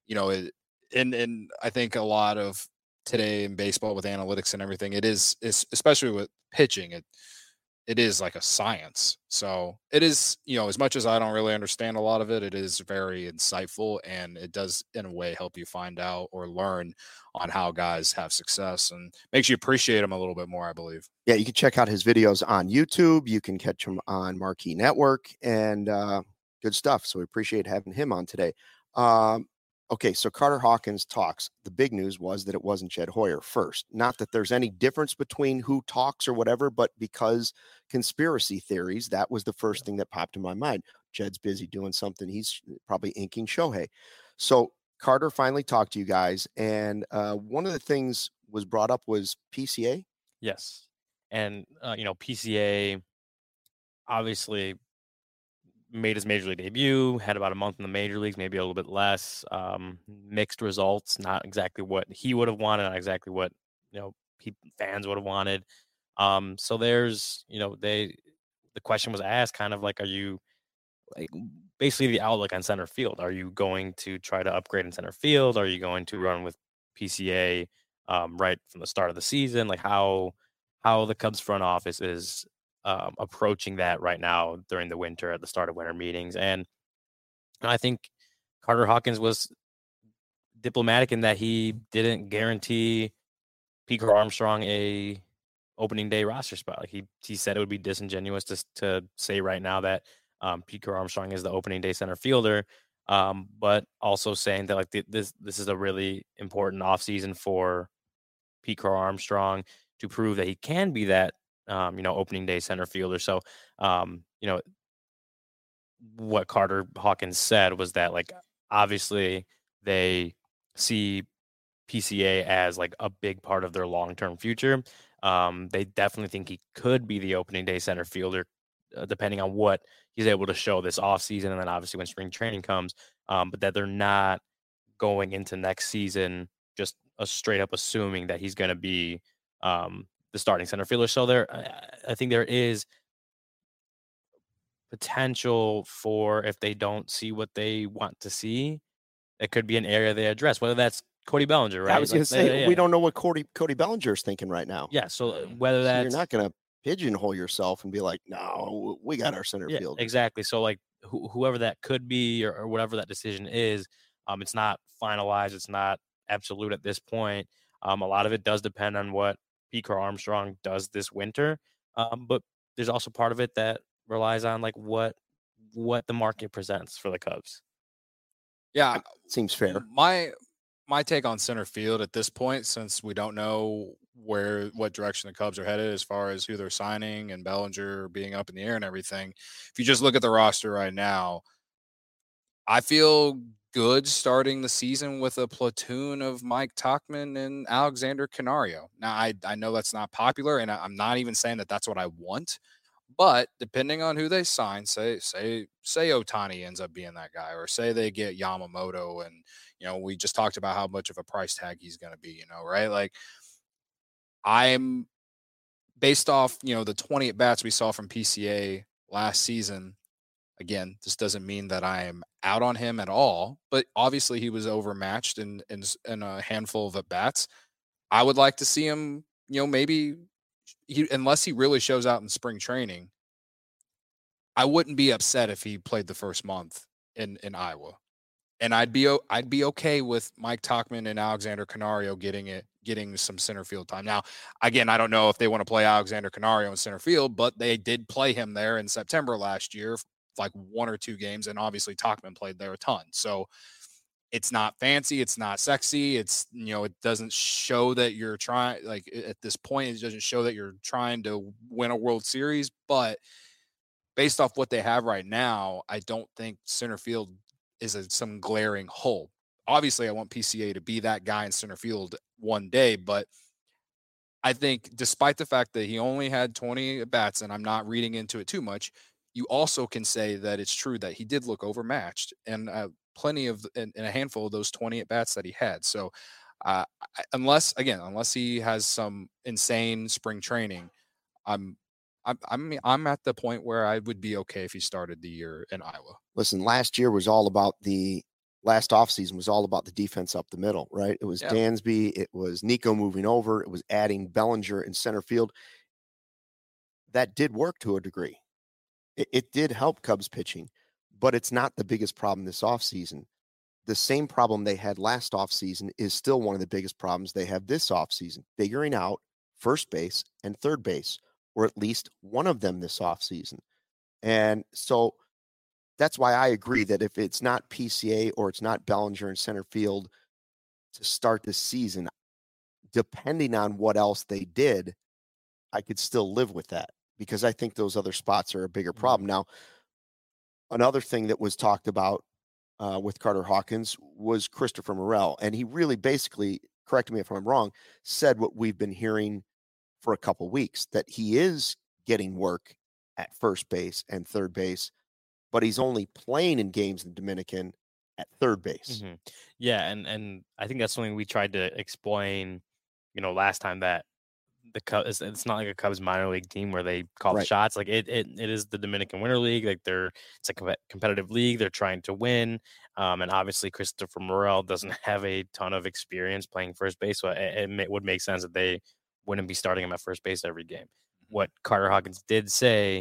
and I think a lot of today in baseball with analytics and everything, it is especially with pitching, it is like a science. So it is, as much as I don't really understand a lot of it, it is very insightful, and it does in a way help you find out or learn on how guys have success, and makes you appreciate them a little bit more, I believe. Yeah, you can check out his videos on YouTube. You can catch him on Marquee Network, and good stuff. So we appreciate having him on today. Okay, so Carter Hawkins talks. The big news was that it wasn't Jed Hoyer first. Not that there's any difference between who talks or whatever, but because conspiracy theories, that was the first thing that popped in my mind. Jed's busy doing something. He's probably inking Shohei. So Carter finally talked to you guys, and one of the things was brought up was PCA. Yes, and PCA obviously made his major league debut, had about a month in the major leagues, maybe a little bit less, mixed results, not exactly what he would have wanted, not exactly what, fans would have wanted. So there's, the question was asked kind of like, are you basically the outlook on center field? Are you going to try to upgrade in center field? Are you going to run with PCA right from the start of the season? Like how the Cubs front office is approaching that right now during the winter at the start of winter meetings. And I think Carter Hawkins was diplomatic in that he didn't guarantee Pico Armstrong a opening day roster spot. Like he said it would be disingenuous to say right now that Pico Armstrong is the opening day center fielder, but also saying that like this is a really important offseason for Pico Armstrong to prove that he can be that opening day center fielder. So what Carter Hawkins said was that like obviously they see PCA as like a big part of their long-term future. They definitely think he could be the opening day center fielder, depending on what he's able to show this offseason, and then obviously when spring training comes, but that they're not going into next season just straight up assuming that he's going to be the starting center fielder. So I think there is potential for, if they don't see what they want to see, it could be an area they address, whether that's Cody Bellinger, right? I was going to say, we don't know what Cody Bellinger is thinking right now. Yeah, so whether that's... So you're not going to pigeonhole yourself and be like, no, we got our center field. Exactly. So like whoever that could be or whatever that decision is, it's not finalized. It's not absolute at this point. A lot of it does depend on what Pico Armstrong does this winter. But there's also part of it that relies on like what the market presents for the Cubs. Yeah, seems fair. My take on center field at this point, since we don't know what direction the Cubs are headed as far as who they're signing and Bellinger being up in the air and everything, if you just look at the roster right now, I feel good starting the season with a platoon of Mike Tauchman and Alexander Canario. Now, I know that's not popular, and I'm not even saying that that's what I want. But depending on who they sign, say Ohtani ends up being that guy, or say they get Yamamoto, and we just talked about how much of a price tag he's going to be, right? Like, I'm based off the 20 at bats we saw from PCA last season. Again, this doesn't mean that I am out on him at all, but obviously he was overmatched in a handful of at bats. I would like to see him, maybe. Unless he really shows out in spring training, I wouldn't be upset if he played the first month in Iowa, and I'd be okay with Mike Tauchman and Alexander Canario getting some center field time. Now, again, I don't know if they want to play Alexander Canario in center field, but they did play him there in September last year, like 1 or 2 games, and obviously Tauchman played there a ton. So it's not fancy. It's not sexy. It's, it doesn't show that you're trying, like at this point, it doesn't show that you're trying to win a World Series, but based off what they have right now, I don't think center field is some glaring hole. Obviously I want PCA to be that guy in center field one day, but I think despite the fact that he only had 20 at bats, and I'm not reading into it too much, you also can say that it's true that he did look overmatched, and plenty of in a handful of those 20 at bats that he had. So unless he has some insane spring training, I'm at the point where I would be okay if he started the year in Iowa. Listen, last offseason was all about the defense up the middle, right? It was Dansby, it was Nico moving over, it was adding Bellinger in center field. That did work to a degree. It did help Cubs pitching, but it's not the biggest problem this offseason. The same problem they had last offseason is still one of the biggest problems they have this offseason, figuring out first base and third base, or at least one of them this offseason. And so that's why I agree that if it's not PCA or it's not Bellinger in center field to start this season, depending on what else they did, I could still live with that, because I think those other spots are a bigger problem. Now, another thing that was talked about with Carter Hawkins was Christopher Morel. And he really basically, correct me if I'm wrong, said what we've been hearing for a couple weeks, that he is getting work at first base and third base, but he's only playing in games in Dominican at third base. Mm-hmm. Yeah, and I think that's something we tried to explain, last time, that the Cubs, it's not like a Cubs minor league team where they call the shots. Like it is the Dominican Winter League. Like it's a competitive league. They're trying to win. And obviously Christopher Morel doesn't have a ton of experience playing first base. So it would make sense that they wouldn't be starting him at first base every game. what Carter Hawkins did say,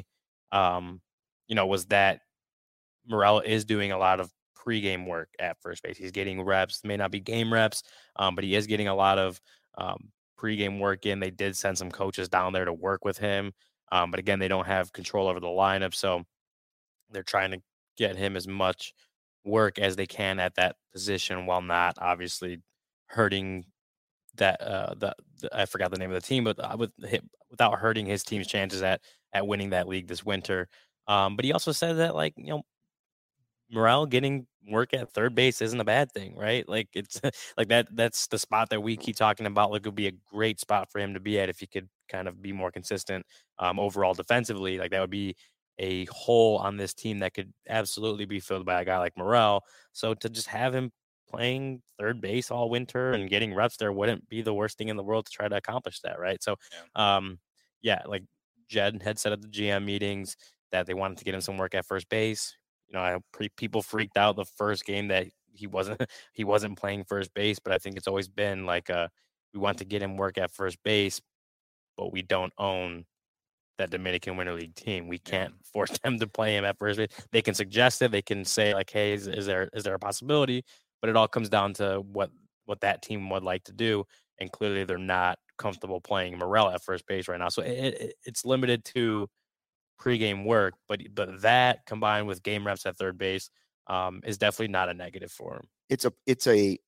was that Morel is doing a lot of pregame work at first base. He's getting reps, may not be game reps, but he is getting a lot of pregame work in. They did send some coaches down there to work with him. But again, they don't have control over the lineup. So they're trying to get him as much work as they can at that position while not obviously hurting that I forgot the name of the team, but without hurting his team's chances at winning that league this winter. But he also said that Morel getting work at third base isn't a bad thing, right? Like it's like that's the spot that we keep talking about. Like it would be a great spot for him to be at if he could kind of be more consistent overall defensively. Like that would be a hole on this team that could absolutely be filled by a guy like Morel. So to just have him playing third base all winter and getting reps there wouldn't be the worst thing in the world to try to accomplish that, right? So, like Jed had said at the GM meetings that they wanted to get him some work at first base. People freaked out the first game that he wasn't playing first base, but I think it's always been like we want to get him work at first base, but we don't own that Dominican Winter League team. We can't force them to play him at first base. They can suggest it. They can say like, hey, is there a possibility? But it all comes down to what that team would like to do. And clearly they're not comfortable playing Morel at first base right now. So it's limited to pregame work, but that combined with game reps at third base is definitely not a negative for him. It's a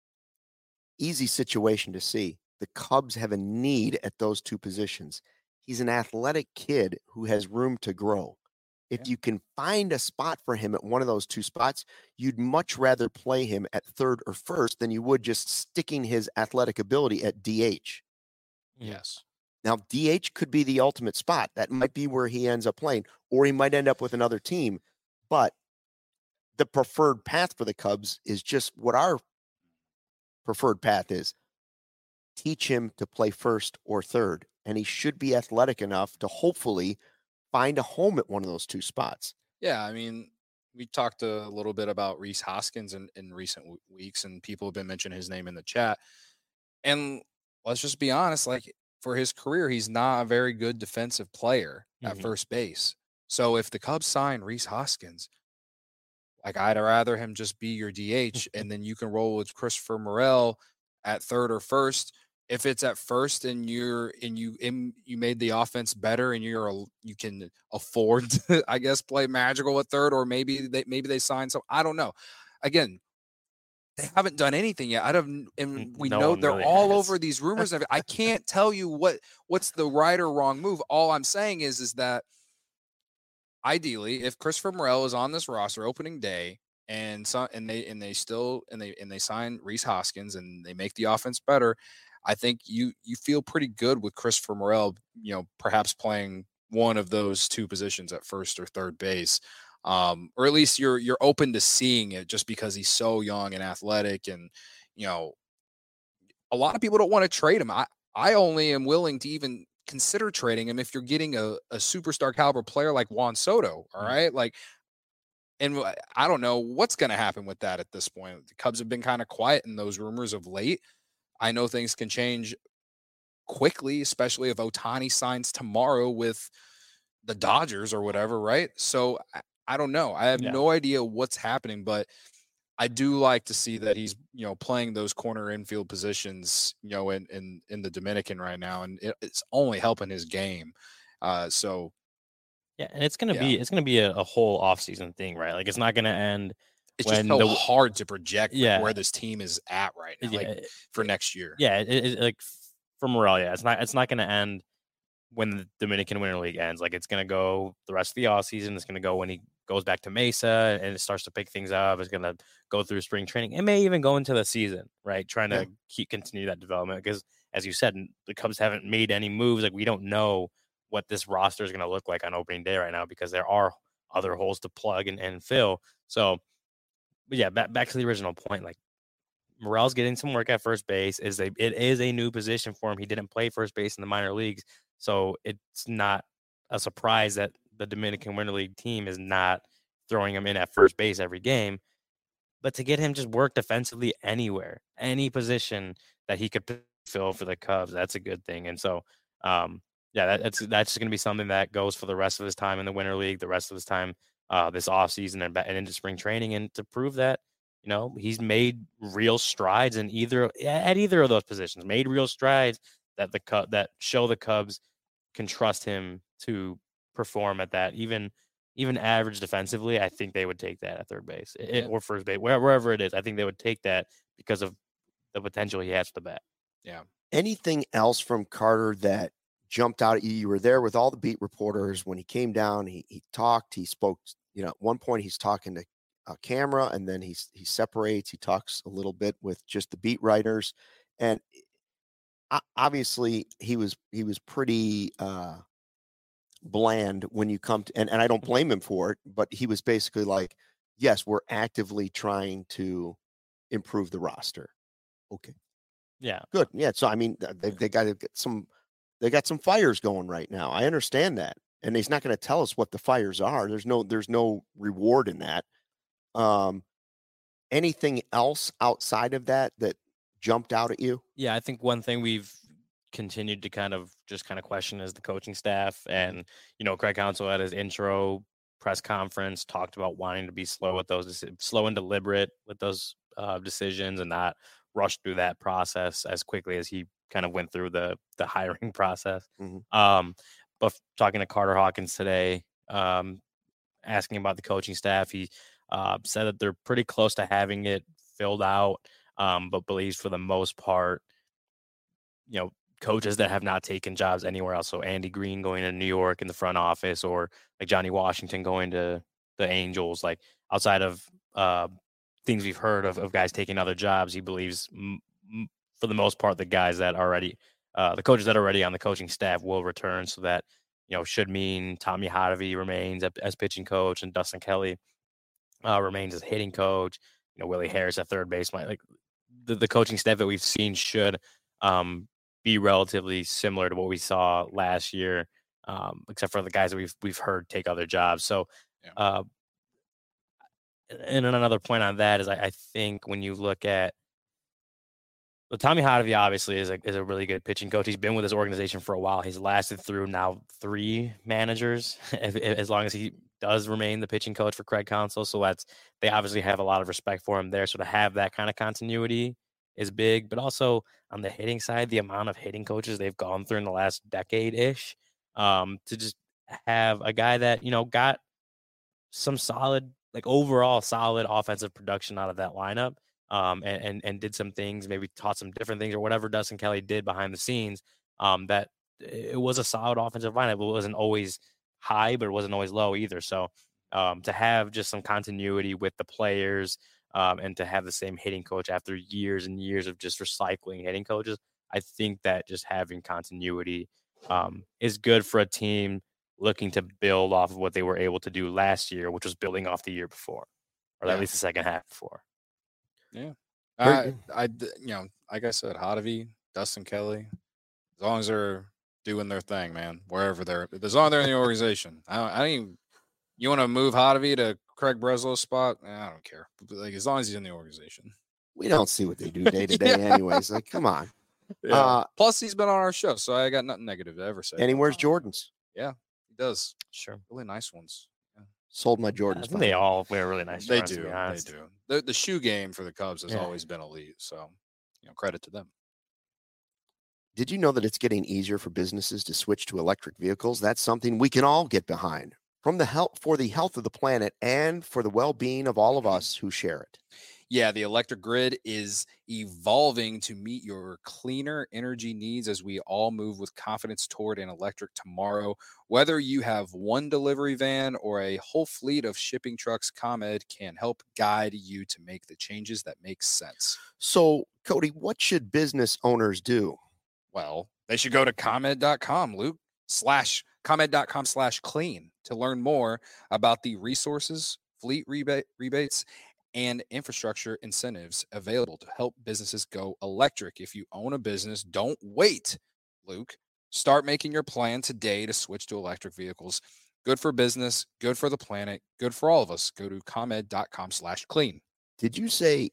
easy situation to see. The Cubs have a need at those two positions. He's an athletic kid who has room to grow. If you can find a spot for him at one of those two spots, you'd much rather play him at third or first than you would just sticking his athletic ability at DH. Yes. Now, DH could be the ultimate spot. That might be where he ends up playing, or he might end up with another team. But the preferred path for the Cubs is just what our preferred path is. Teach him to play first or third, and he should be athletic enough to hopefully find a home at one of those two spots. Yeah, I mean, we talked a little bit about Rhys Hoskins in recent weeks, and people have been mentioning his name in the chat. And let's just be honest, like for his career, he's not a very good defensive player at first base. So if the Cubs sign Rhys Hoskins, like I'd rather him just be your DH, and then you can roll with Christopher Morel at third or first. If it's at first and you made the offense better and you can afford to, I guess, play magical at third, or maybe they sign some. I don't know. Again, they haven't done anything yet. And we know they're really all over these rumors. I can't tell you what's the right or wrong move. All I'm saying is that ideally, if Christopher Morel is on this roster opening day and they sign Rhys Hoskins and they make the offense better, I think you feel pretty good with Christopher Morel, perhaps playing one of those two positions at first or third base. Or at least you're open to seeing it just because he's so young and athletic. And, a lot of people don't want to trade him. I only am willing to even consider trading him if you're getting a superstar caliber player like Juan Soto. All right. And I don't know what's going to happen with that at this point. The Cubs have been kind of quiet in those rumors of late. I know things can change quickly, especially if Ohtani signs tomorrow with the Dodgers or whatever, right? So I don't know. I have no idea what's happening, but I do like to see that he's, playing those corner infield positions, in the Dominican right now, and it's only helping his game. And it's gonna be a whole offseason thing, right? Like it's not gonna end. It's just so hard to project where this team is at right now, for next year. Yeah, like for Morel, it's not going to end when the Dominican Winter League ends. Like it's going to go the rest of the offseason. It's going to go when he goes back to Mesa and it starts to pick things up. It's going to go through spring training. It may even go into the season, right? Trying to continue that development because, as you said, the Cubs haven't made any moves. Like we don't know what this roster is going to look like on opening day right now because there are other holes to plug and fill. So. But yeah, back to the original point. Like Morel's getting some work at first base. It is a new position for him. He didn't play first base in the minor leagues, so it's not a surprise that the Dominican Winter League team is not throwing him in at first base every game. But to get him just work defensively anywhere, any position that he could fill for the Cubs, that's a good thing. And so, Yeah, that's going to be something that goes for the rest of his time in the Winter League, the rest of his time this offseason and into spring training, and to prove that, he's made real strides at either of those positions, made real strides that show the Cubs can trust him to perform at that. Even average defensively, I think they would take that at third base or first base, wherever it is. I think they would take that because of the potential he has to bat. Yeah. Anything else from Carter that jumped out at you? You were there with all the beat reporters when he came down. He talked. He spoke. At one point he's talking to a camera, and then he separates. He talks a little bit with just the beat writers, and obviously he was pretty bland when you come to, and I don't blame him for it, but he was basically like, yes, we're actively trying to improve the roster. Okay. Yeah. Good. Yeah. So, I mean, they got to get they got some fires going right now. I understand that. And he's not going to tell us what the fires are. There's no reward in that. Anything else outside of that jumped out at you? Yeah. I think one thing we've continued to kind of question is the coaching staff. And, Craig Counsell at his intro press conference talked about wanting to be slow and deliberate with those decisions and not rush through that process as quickly as he kind of went through the hiring process. Mm-hmm. But talking to Carter Hawkins today, asking about the coaching staff, he said that they're pretty close to having it filled out, but believes for the most part, coaches that have not taken jobs anywhere else. So Andy Green going to New York in the front office, or like Johnny Washington going to the Angels, like outside of things we've heard of guys taking other jobs, he believes for the most part, the guys that already, the coaches that are already on the coaching staff will return. So that, should mean Tommy Hotovy remains as pitching coach and Dustin Kelly remains as hitting coach. Willie Harris at third base. Like the coaching staff that we've seen should be relatively similar to what we saw last year, except for the guys that we've heard take other jobs. So, and another point on that is I think when you look at Tommy Hotovy, obviously is a really good pitching coach. He's been with this organization for a while. He's lasted through now 3 managers, as long as he does remain the pitching coach for Craig Counsell. So they obviously have a lot of respect for him there. So to have that kind of continuity is big, but also on the hitting side, the amount of hitting coaches they've gone through in the last decade-ish, to just have a guy that, got some solid, like overall solid offensive production out of that lineup, and did some things, maybe taught some different things or whatever Dustin Kelly did behind the scenes, that it was a solid offensive lineup. It wasn't always high, but it wasn't always low either. So to have just some continuity with the players, and to have the same hitting coach after years and years of just recycling hitting coaches, I think that just having continuity is good for a team looking to build off of what they were able to do last year, which was building off the year before, or at least the second half before. Yeah. Like I said, Hotovy, Dustin Kelly, as long as they're doing their thing, man, wherever as long as they're in the organization. I don't even, you want to move Hotovy to Craig Breslow's spot? I don't care. But like, as long as he's in the organization. We don't see what they do day to day anyways. Like, come on. Yeah. Plus, he's been on our show, so I got nothing negative to ever say. And he wears Jordans. Yeah, he does. Sure. Really nice ones. Yeah. Sold my Jordans. They all wear really nice They Jordans, do. The shoe game for the Cubs has always been elite, so credit to them. Did you know that it's getting easier for businesses to switch to electric vehicles? That's something we can all get behind. For the health of the planet and for the well-being of all of us who share it. Yeah, the electric grid is evolving to meet your cleaner energy needs as we all move with confidence toward an electric tomorrow. Whether you have one delivery van or a whole fleet of shipping trucks, ComEd can help guide you to make the changes that make sense. So, Cody, what should business owners do? Well, they should go to ComEd.com, Luke, ComEd.com/clean to learn more about the resources, fleet rebates, and infrastructure incentives available to help businesses go electric. If you own a business, don't wait, Luke. Start making your plan today to switch to electric vehicles. Good for business, good for the planet, good for all of us. Go to ComEd.com/clean. Did you say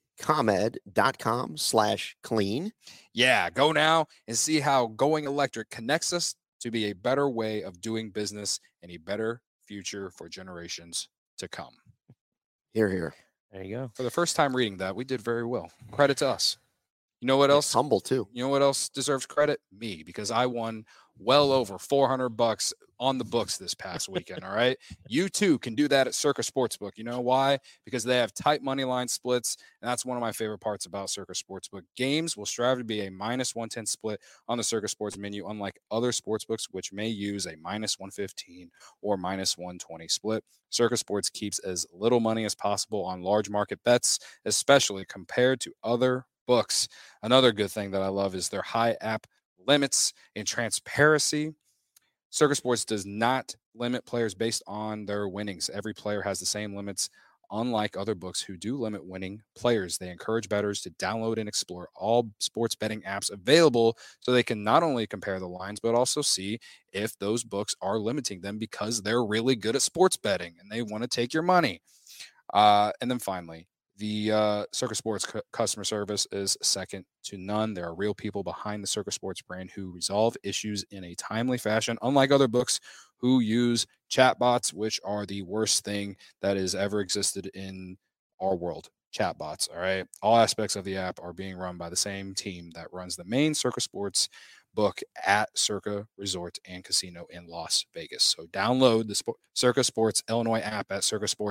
ComEd.com/clean? Yeah, go now and see how going electric connects us to be a better way of doing business and a better future for generations to come. Here, here. There you go. For the first time reading that, we did very well. Credit to us. You know what else? It's humble too. You know what else deserves credit? Me, because I won well over $400 on the books this past weekend. All right. You too can do that at Circa Sportsbook. You know why? Because they have tight money line splits. And that's one of my favorite parts about Circa Sportsbook. Games will strive to be a -110 split on the Circa Sports menu, unlike other sportsbooks, which may use a -115 or -120 split. Circa Sports keeps as little money as possible on large market bets, especially compared to other books. Another good thing that I love is their high app limits and transparency. Circa Sports does not limit players based on their winnings. Every player has the same limits, unlike other books who do limit winning players. They encourage bettors to download and explore all sports betting apps available so they can not only compare the lines, but also see if those books are limiting them because they're really good at sports betting and they want to take your money. And then finally, the Circa Sports customer service is second to none. There are real people behind the Circa Sports brand who resolve issues in a timely fashion, unlike other books who use chatbots, which are the worst thing that has ever existed in our world. Chatbots, all right? All aspects of the app are being run by the same team that runs the main Circa Sports book at Circa Resort and Casino in Las Vegas. So download the Circa Sports Illinois app at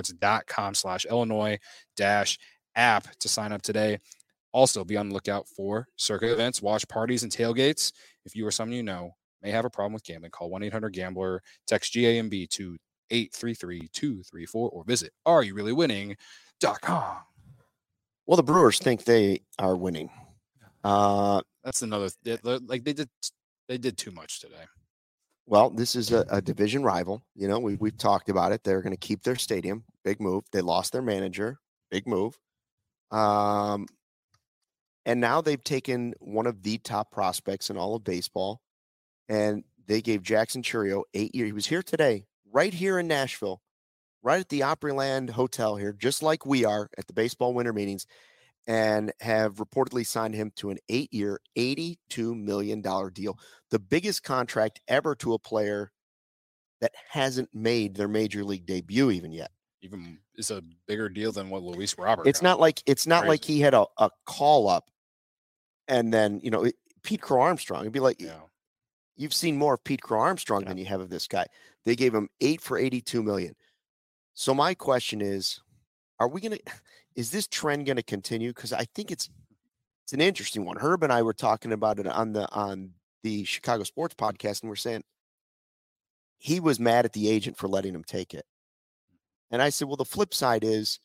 circasports.com/Illinois-app to sign up today. Also, be on the lookout for Circa events, watch parties, and tailgates. If you or someone you know may have a problem with gambling, call 1-800-GAMBLER, text GAMB to 833-234, or visit areyoureallywinning.com. Well, the Brewers think they are winning. That's another like they did too much today. Well, this is a division rival. You know, we've talked about it. They're going to keep their stadium. Big move. They lost their manager. Big move. And now they've taken one of the top prospects in all of baseball, and they gave Jackson Chourio 8 years. He was here today, right here in Nashville, right at the Opryland Hotel here, just like we are at the baseball winter meetings, and have reportedly signed him to an 8-year, $82 million deal, the biggest contract ever to a player that hasn't made their major league debut even yet. Even is a bigger deal than what Luis Robert It's got. not like he had a call up and then, you know, Pete Crow Armstrong. It'd be like, you've seen more of Pete Crow Armstrong than you have of this guy. They gave him 8 for $82 million. So my question is is this trend going to continue? Because I think it's an interesting one. Herb and I were talking about it on the Chicago Sports Podcast, and we're saying he was mad at the agent for letting him take it. And I said, well, the flip side is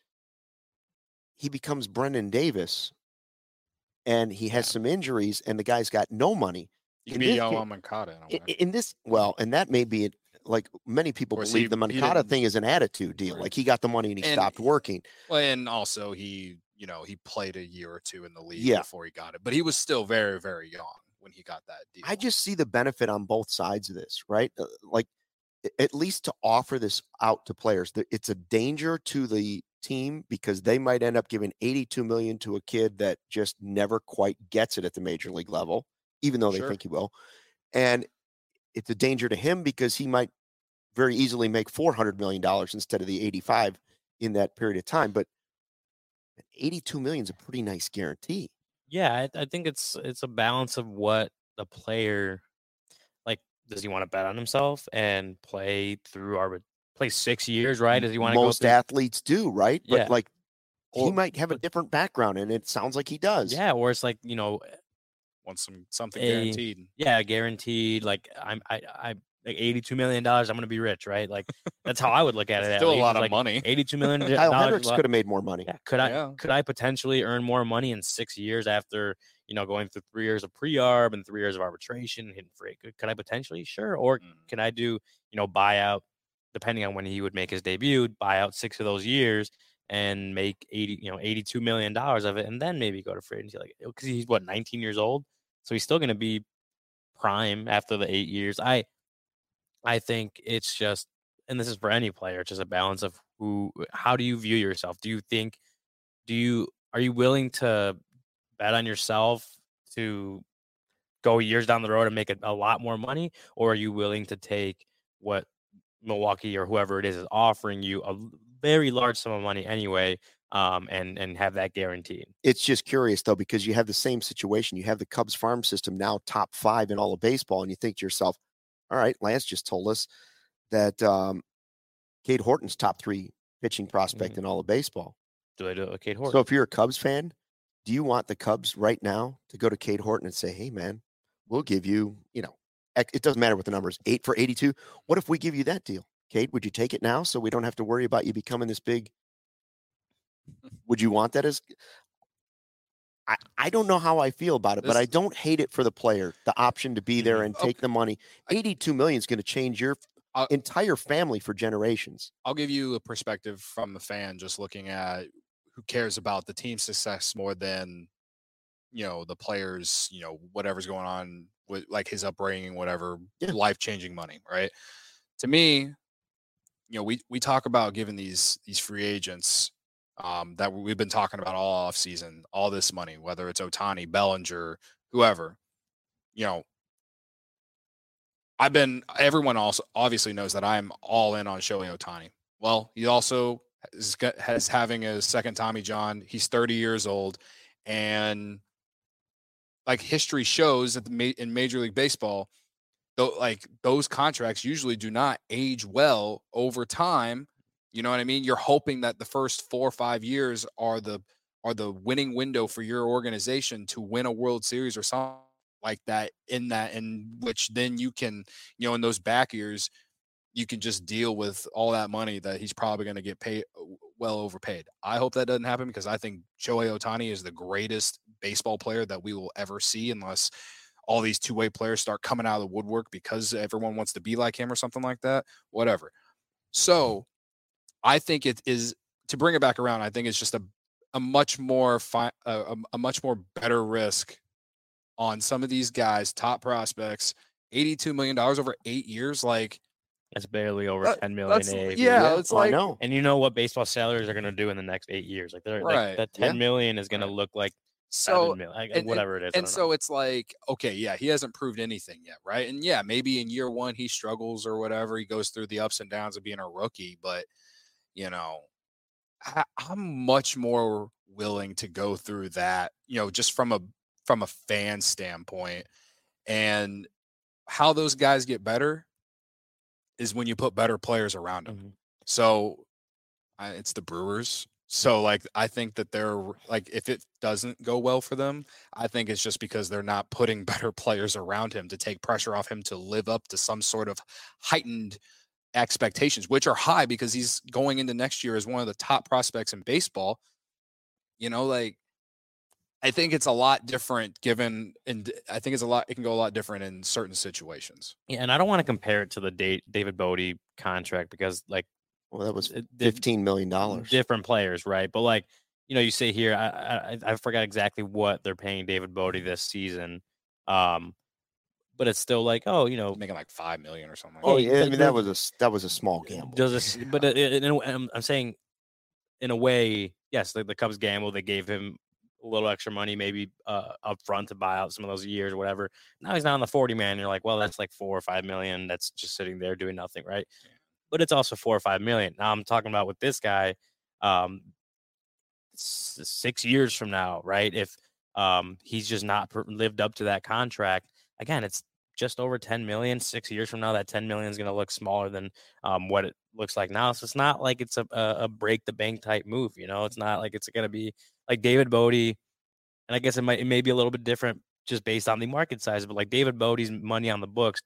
he becomes Brendan Davis, and he has some injuries, and the guy's got no money. You can be Yoan Moncada in this. Well, and that may be it. Like many people believe the Moncada thing is an attitude deal. Right. Like he got the money and he stopped working. Well, and also he played a year or two in the league before he got it, but he was still very, very young when he got that deal. I just see the benefit on both sides of this, right? Like at least to offer this out to players. It's a danger to the team because they might end up giving $82 million to a kid that just never quite gets it at the major league level, even though they think he will. And it's a danger to him because he might very easily make $400 million instead of the 85 in that period of time. But 82 million is a pretty nice guarantee. Yeah, I think it's a balance of what the player, like, does he want to bet on himself and play 6 years, right? Does he want to Most athletes do, right? Yeah. But like he might have a different background, and it sounds like he does. Yeah, or it's like, you know, want something guaranteed. Yeah, guaranteed. Like I like $82 million. I'm going to be rich, right? Like that's how I would look at it. Still at a lot of like money. $82 million. Kyle Hendricks could have made more money. Yeah, could I potentially earn more money in 6 years after, you know, going through 3 years of pre-arb and 3 years of arbitration, hitting free? Could I potentially? Sure. Or can I do, you know, buyout, depending on when he would make his debut, buy out 6 of those years and make $82 million of it, and then maybe go to free agency, like, because he's 19 years old, so he's still going to be prime after the 8 years. I think it's just, and this is for any player, it's just a balance of how do you view yourself? Are you willing to bet on yourself to go years down the road and make a lot more money, or are you willing to take what Milwaukee or whoever it is offering you, a very large sum of money anyway, and have that guaranteed? It's just curious, though, because you have the same situation. You have the Cubs farm system now top 5 in all of baseball, and you think to yourself, all right, Lance just told us that Cade Horton's top 3 pitching prospect in all of baseball. Do I do it with Cade Horton? So if you're a Cubs fan, do you want the Cubs right now to go to Cade Horton and say, hey, man, we'll give you, it doesn't matter what the number is, 8 for 82. What if we give you that deal? Cade, would you take it now so we don't have to worry about you becoming this big? Would you want that as? I don't know how I feel about it, but I don't hate it for the player, the option to be there and take the money. $82 million is going to change your entire family for generations. I'll give you a perspective from the fan, just looking at who cares about the team's success more than, the players, whatever's going on with like his upbringing, whatever, life-changing money, right? To me, we talk about giving these free agents that we've been talking about all offseason, all this money, whether it's Ohtani, Bellinger, whoever, everyone also obviously knows that I'm all in on Shohei Ohtani. Well, he also has having a second Tommy John. He's 30 years old. And like history shows that in Major League Baseball, those contracts usually do not age well over time. You know what I mean? You're hoping that the first 4 or 5 years are the winning window for your organization to win a World Series or something like that, in which then you can, in those back years, you can just deal with all that money that he's probably going to get paid, well overpaid. I hope that doesn't happen, because I think Shohei Ohtani is the greatest baseball player that we will ever see, unless all these two-way players start coming out of the woodwork because everyone wants to be like him or something like that, whatever. So I think it is, to bring it back around, I think it's just a much more better risk on some of these guys, top prospects. $82 million over 8 years, like that's barely over $10 million. It's like, I know. And you know what baseball salaries are going to do in the next 8 years? Like they're right. that $10 million is going to look like $7 million, whatever it is. And so it's like, okay, yeah, he hasn't proved anything yet, right? And yeah, maybe in year one he struggles or whatever. He goes through the ups and downs of being a rookie, but I'm much more willing to go through that, just from a fan standpoint. And how those guys get better is when you put better players around them. Mm-hmm. So it's the Brewers. So like, I think that they're like, if it doesn't go well for them, I think it's just because they're not putting better players around him to take pressure off him to live up to some sort of heightened expectations, which are high because he's going into next year as one of the top prospects in baseball. I think it's a lot different it can go a lot different in certain situations. Yeah, and I don't want to compare it to the David Bote contract, because like, well, that was $15 million. Different players, right? But like, you say here, I forgot exactly what they're paying David Bote this season. But it's still like, making like $5 million or something. Oh yeah, I mean that was a small gamble. But I'm saying, in a way, yes, the Cubs gamble. They gave him a little extra money, maybe up front to buy out some of those years or whatever. Now he's not on the 40-man. You're like, well, that's like $4 or $5 million. That's just sitting there doing nothing, right? Yeah. But it's also $4 or $5 million. Now I'm talking about with this guy, 6 years from now, right? If he's just not lived up to that contract. Again, it's just over 10 million. 6 years from now, that 10 million is going to look smaller than what it looks like now. So it's not like it's a break the bank type move. It's not like it's going to be like David Bote. And I guess it may be a little bit different just based on the market size, but like David Bote's money on the books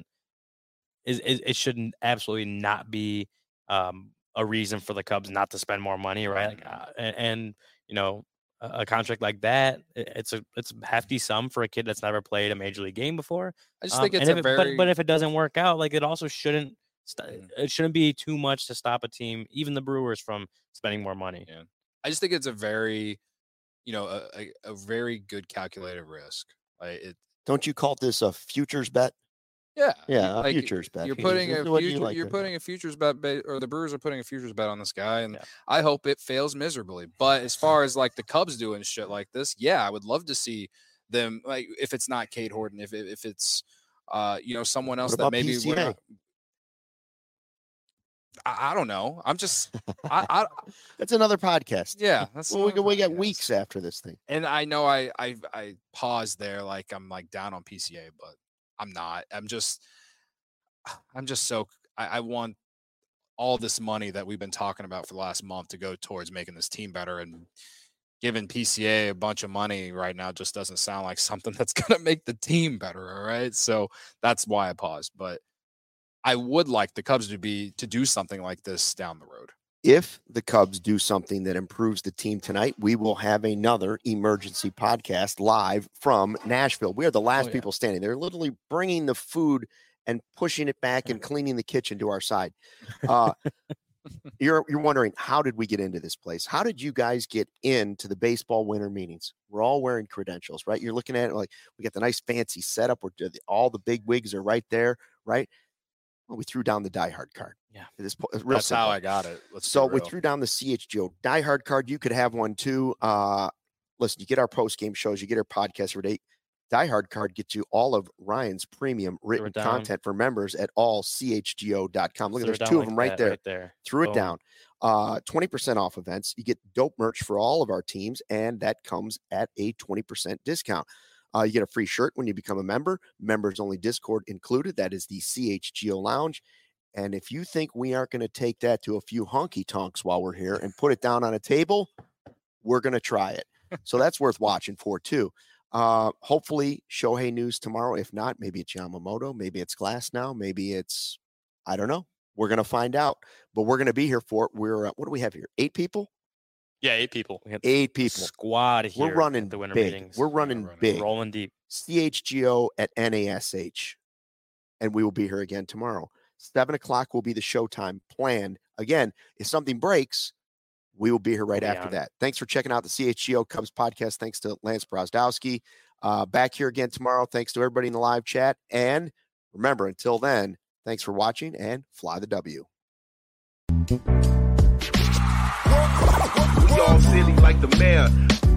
it shouldn't absolutely not be a reason for the Cubs not to spend more money. Right. Like, a contract like that, it's a hefty sum for a kid that's never played a major league game before. I just think it's but if it doesn't work out, like it also shouldn't be too much to stop a team, even the Brewers, from spending more money. Yeah. I just think it's a very, a very good calculated risk. Don't you call this a futures bet? Yeah, a futures bet. You're putting a futures bet, or the Brewers are putting a futures bet on this guy, and I hope it fails miserably. But as far as like the Cubs doing shit like this, yeah, I would love to see them, like if it's not Cade Horton, if it's someone else What that about maybe PCA? we're not, I don't know. I'm just I That's another podcast. Yeah, that's well, we got weeks after this thing. And I know I paused there like I'm like down on PCA, but I'm not. I'm just so I want all this money that we've been talking about for the last month to go towards making this team better, and giving PCA a bunch of money right now just doesn't sound like something that's going to make the team better. All right. So that's why I paused, but I would like the Cubs to do something like this down the road. If the Cubs do something that improves the team tonight, we will have another emergency podcast live from Nashville. We are the last people standing. They're literally bringing the food and pushing it back and cleaning the kitchen to our side. You're wondering, how did we get into this place? How did you guys get into the baseball winter meetings? We're all wearing credentials, right? You're looking at it like we got the nice fancy setup where all the big wigs are right there, right? Well, we threw down the diehard card. Yeah. That's how I got it. So we threw down the CHGO diehard card. You could have one too. Listen, you get our post-game shows, you get our podcast every day. Diehard card gets you all of Ryan's premium written content for members at allchgo.com. Look, there's two of them right there. Threw it down. 20% off events. You get dope merch for all of our teams, and that comes at a 20% discount. You get a free shirt when you become a member. Members only Discord included. That is the CHGO Lounge. And if you think we aren't going to take that to a few honky tonks while we're here and put it down on a table, we're going to try it. So that's worth watching for too. Hopefully Shohei news tomorrow. If not, maybe it's Yamamoto, maybe it's Glass now, maybe it's, I don't know. We're going to find out, but we're going to be here for it. We're, what do we have here? 8 people? Yeah, 8 people. We have 8 people. Squad here. We're running the winter big. meetings. We're running big. Rolling deep. CHGO at NASH. And we will be here again tomorrow. 7 o'clock will be the showtime planned. Again, if something breaks, we will be here right after that. Thanks for checking out the CHGO Cubs podcast. Thanks to Lance Brozdowski. Back here again tomorrow. Thanks to everybody in the live chat. And remember, until then, thanks for watching and fly the W. We all silly like the mayor.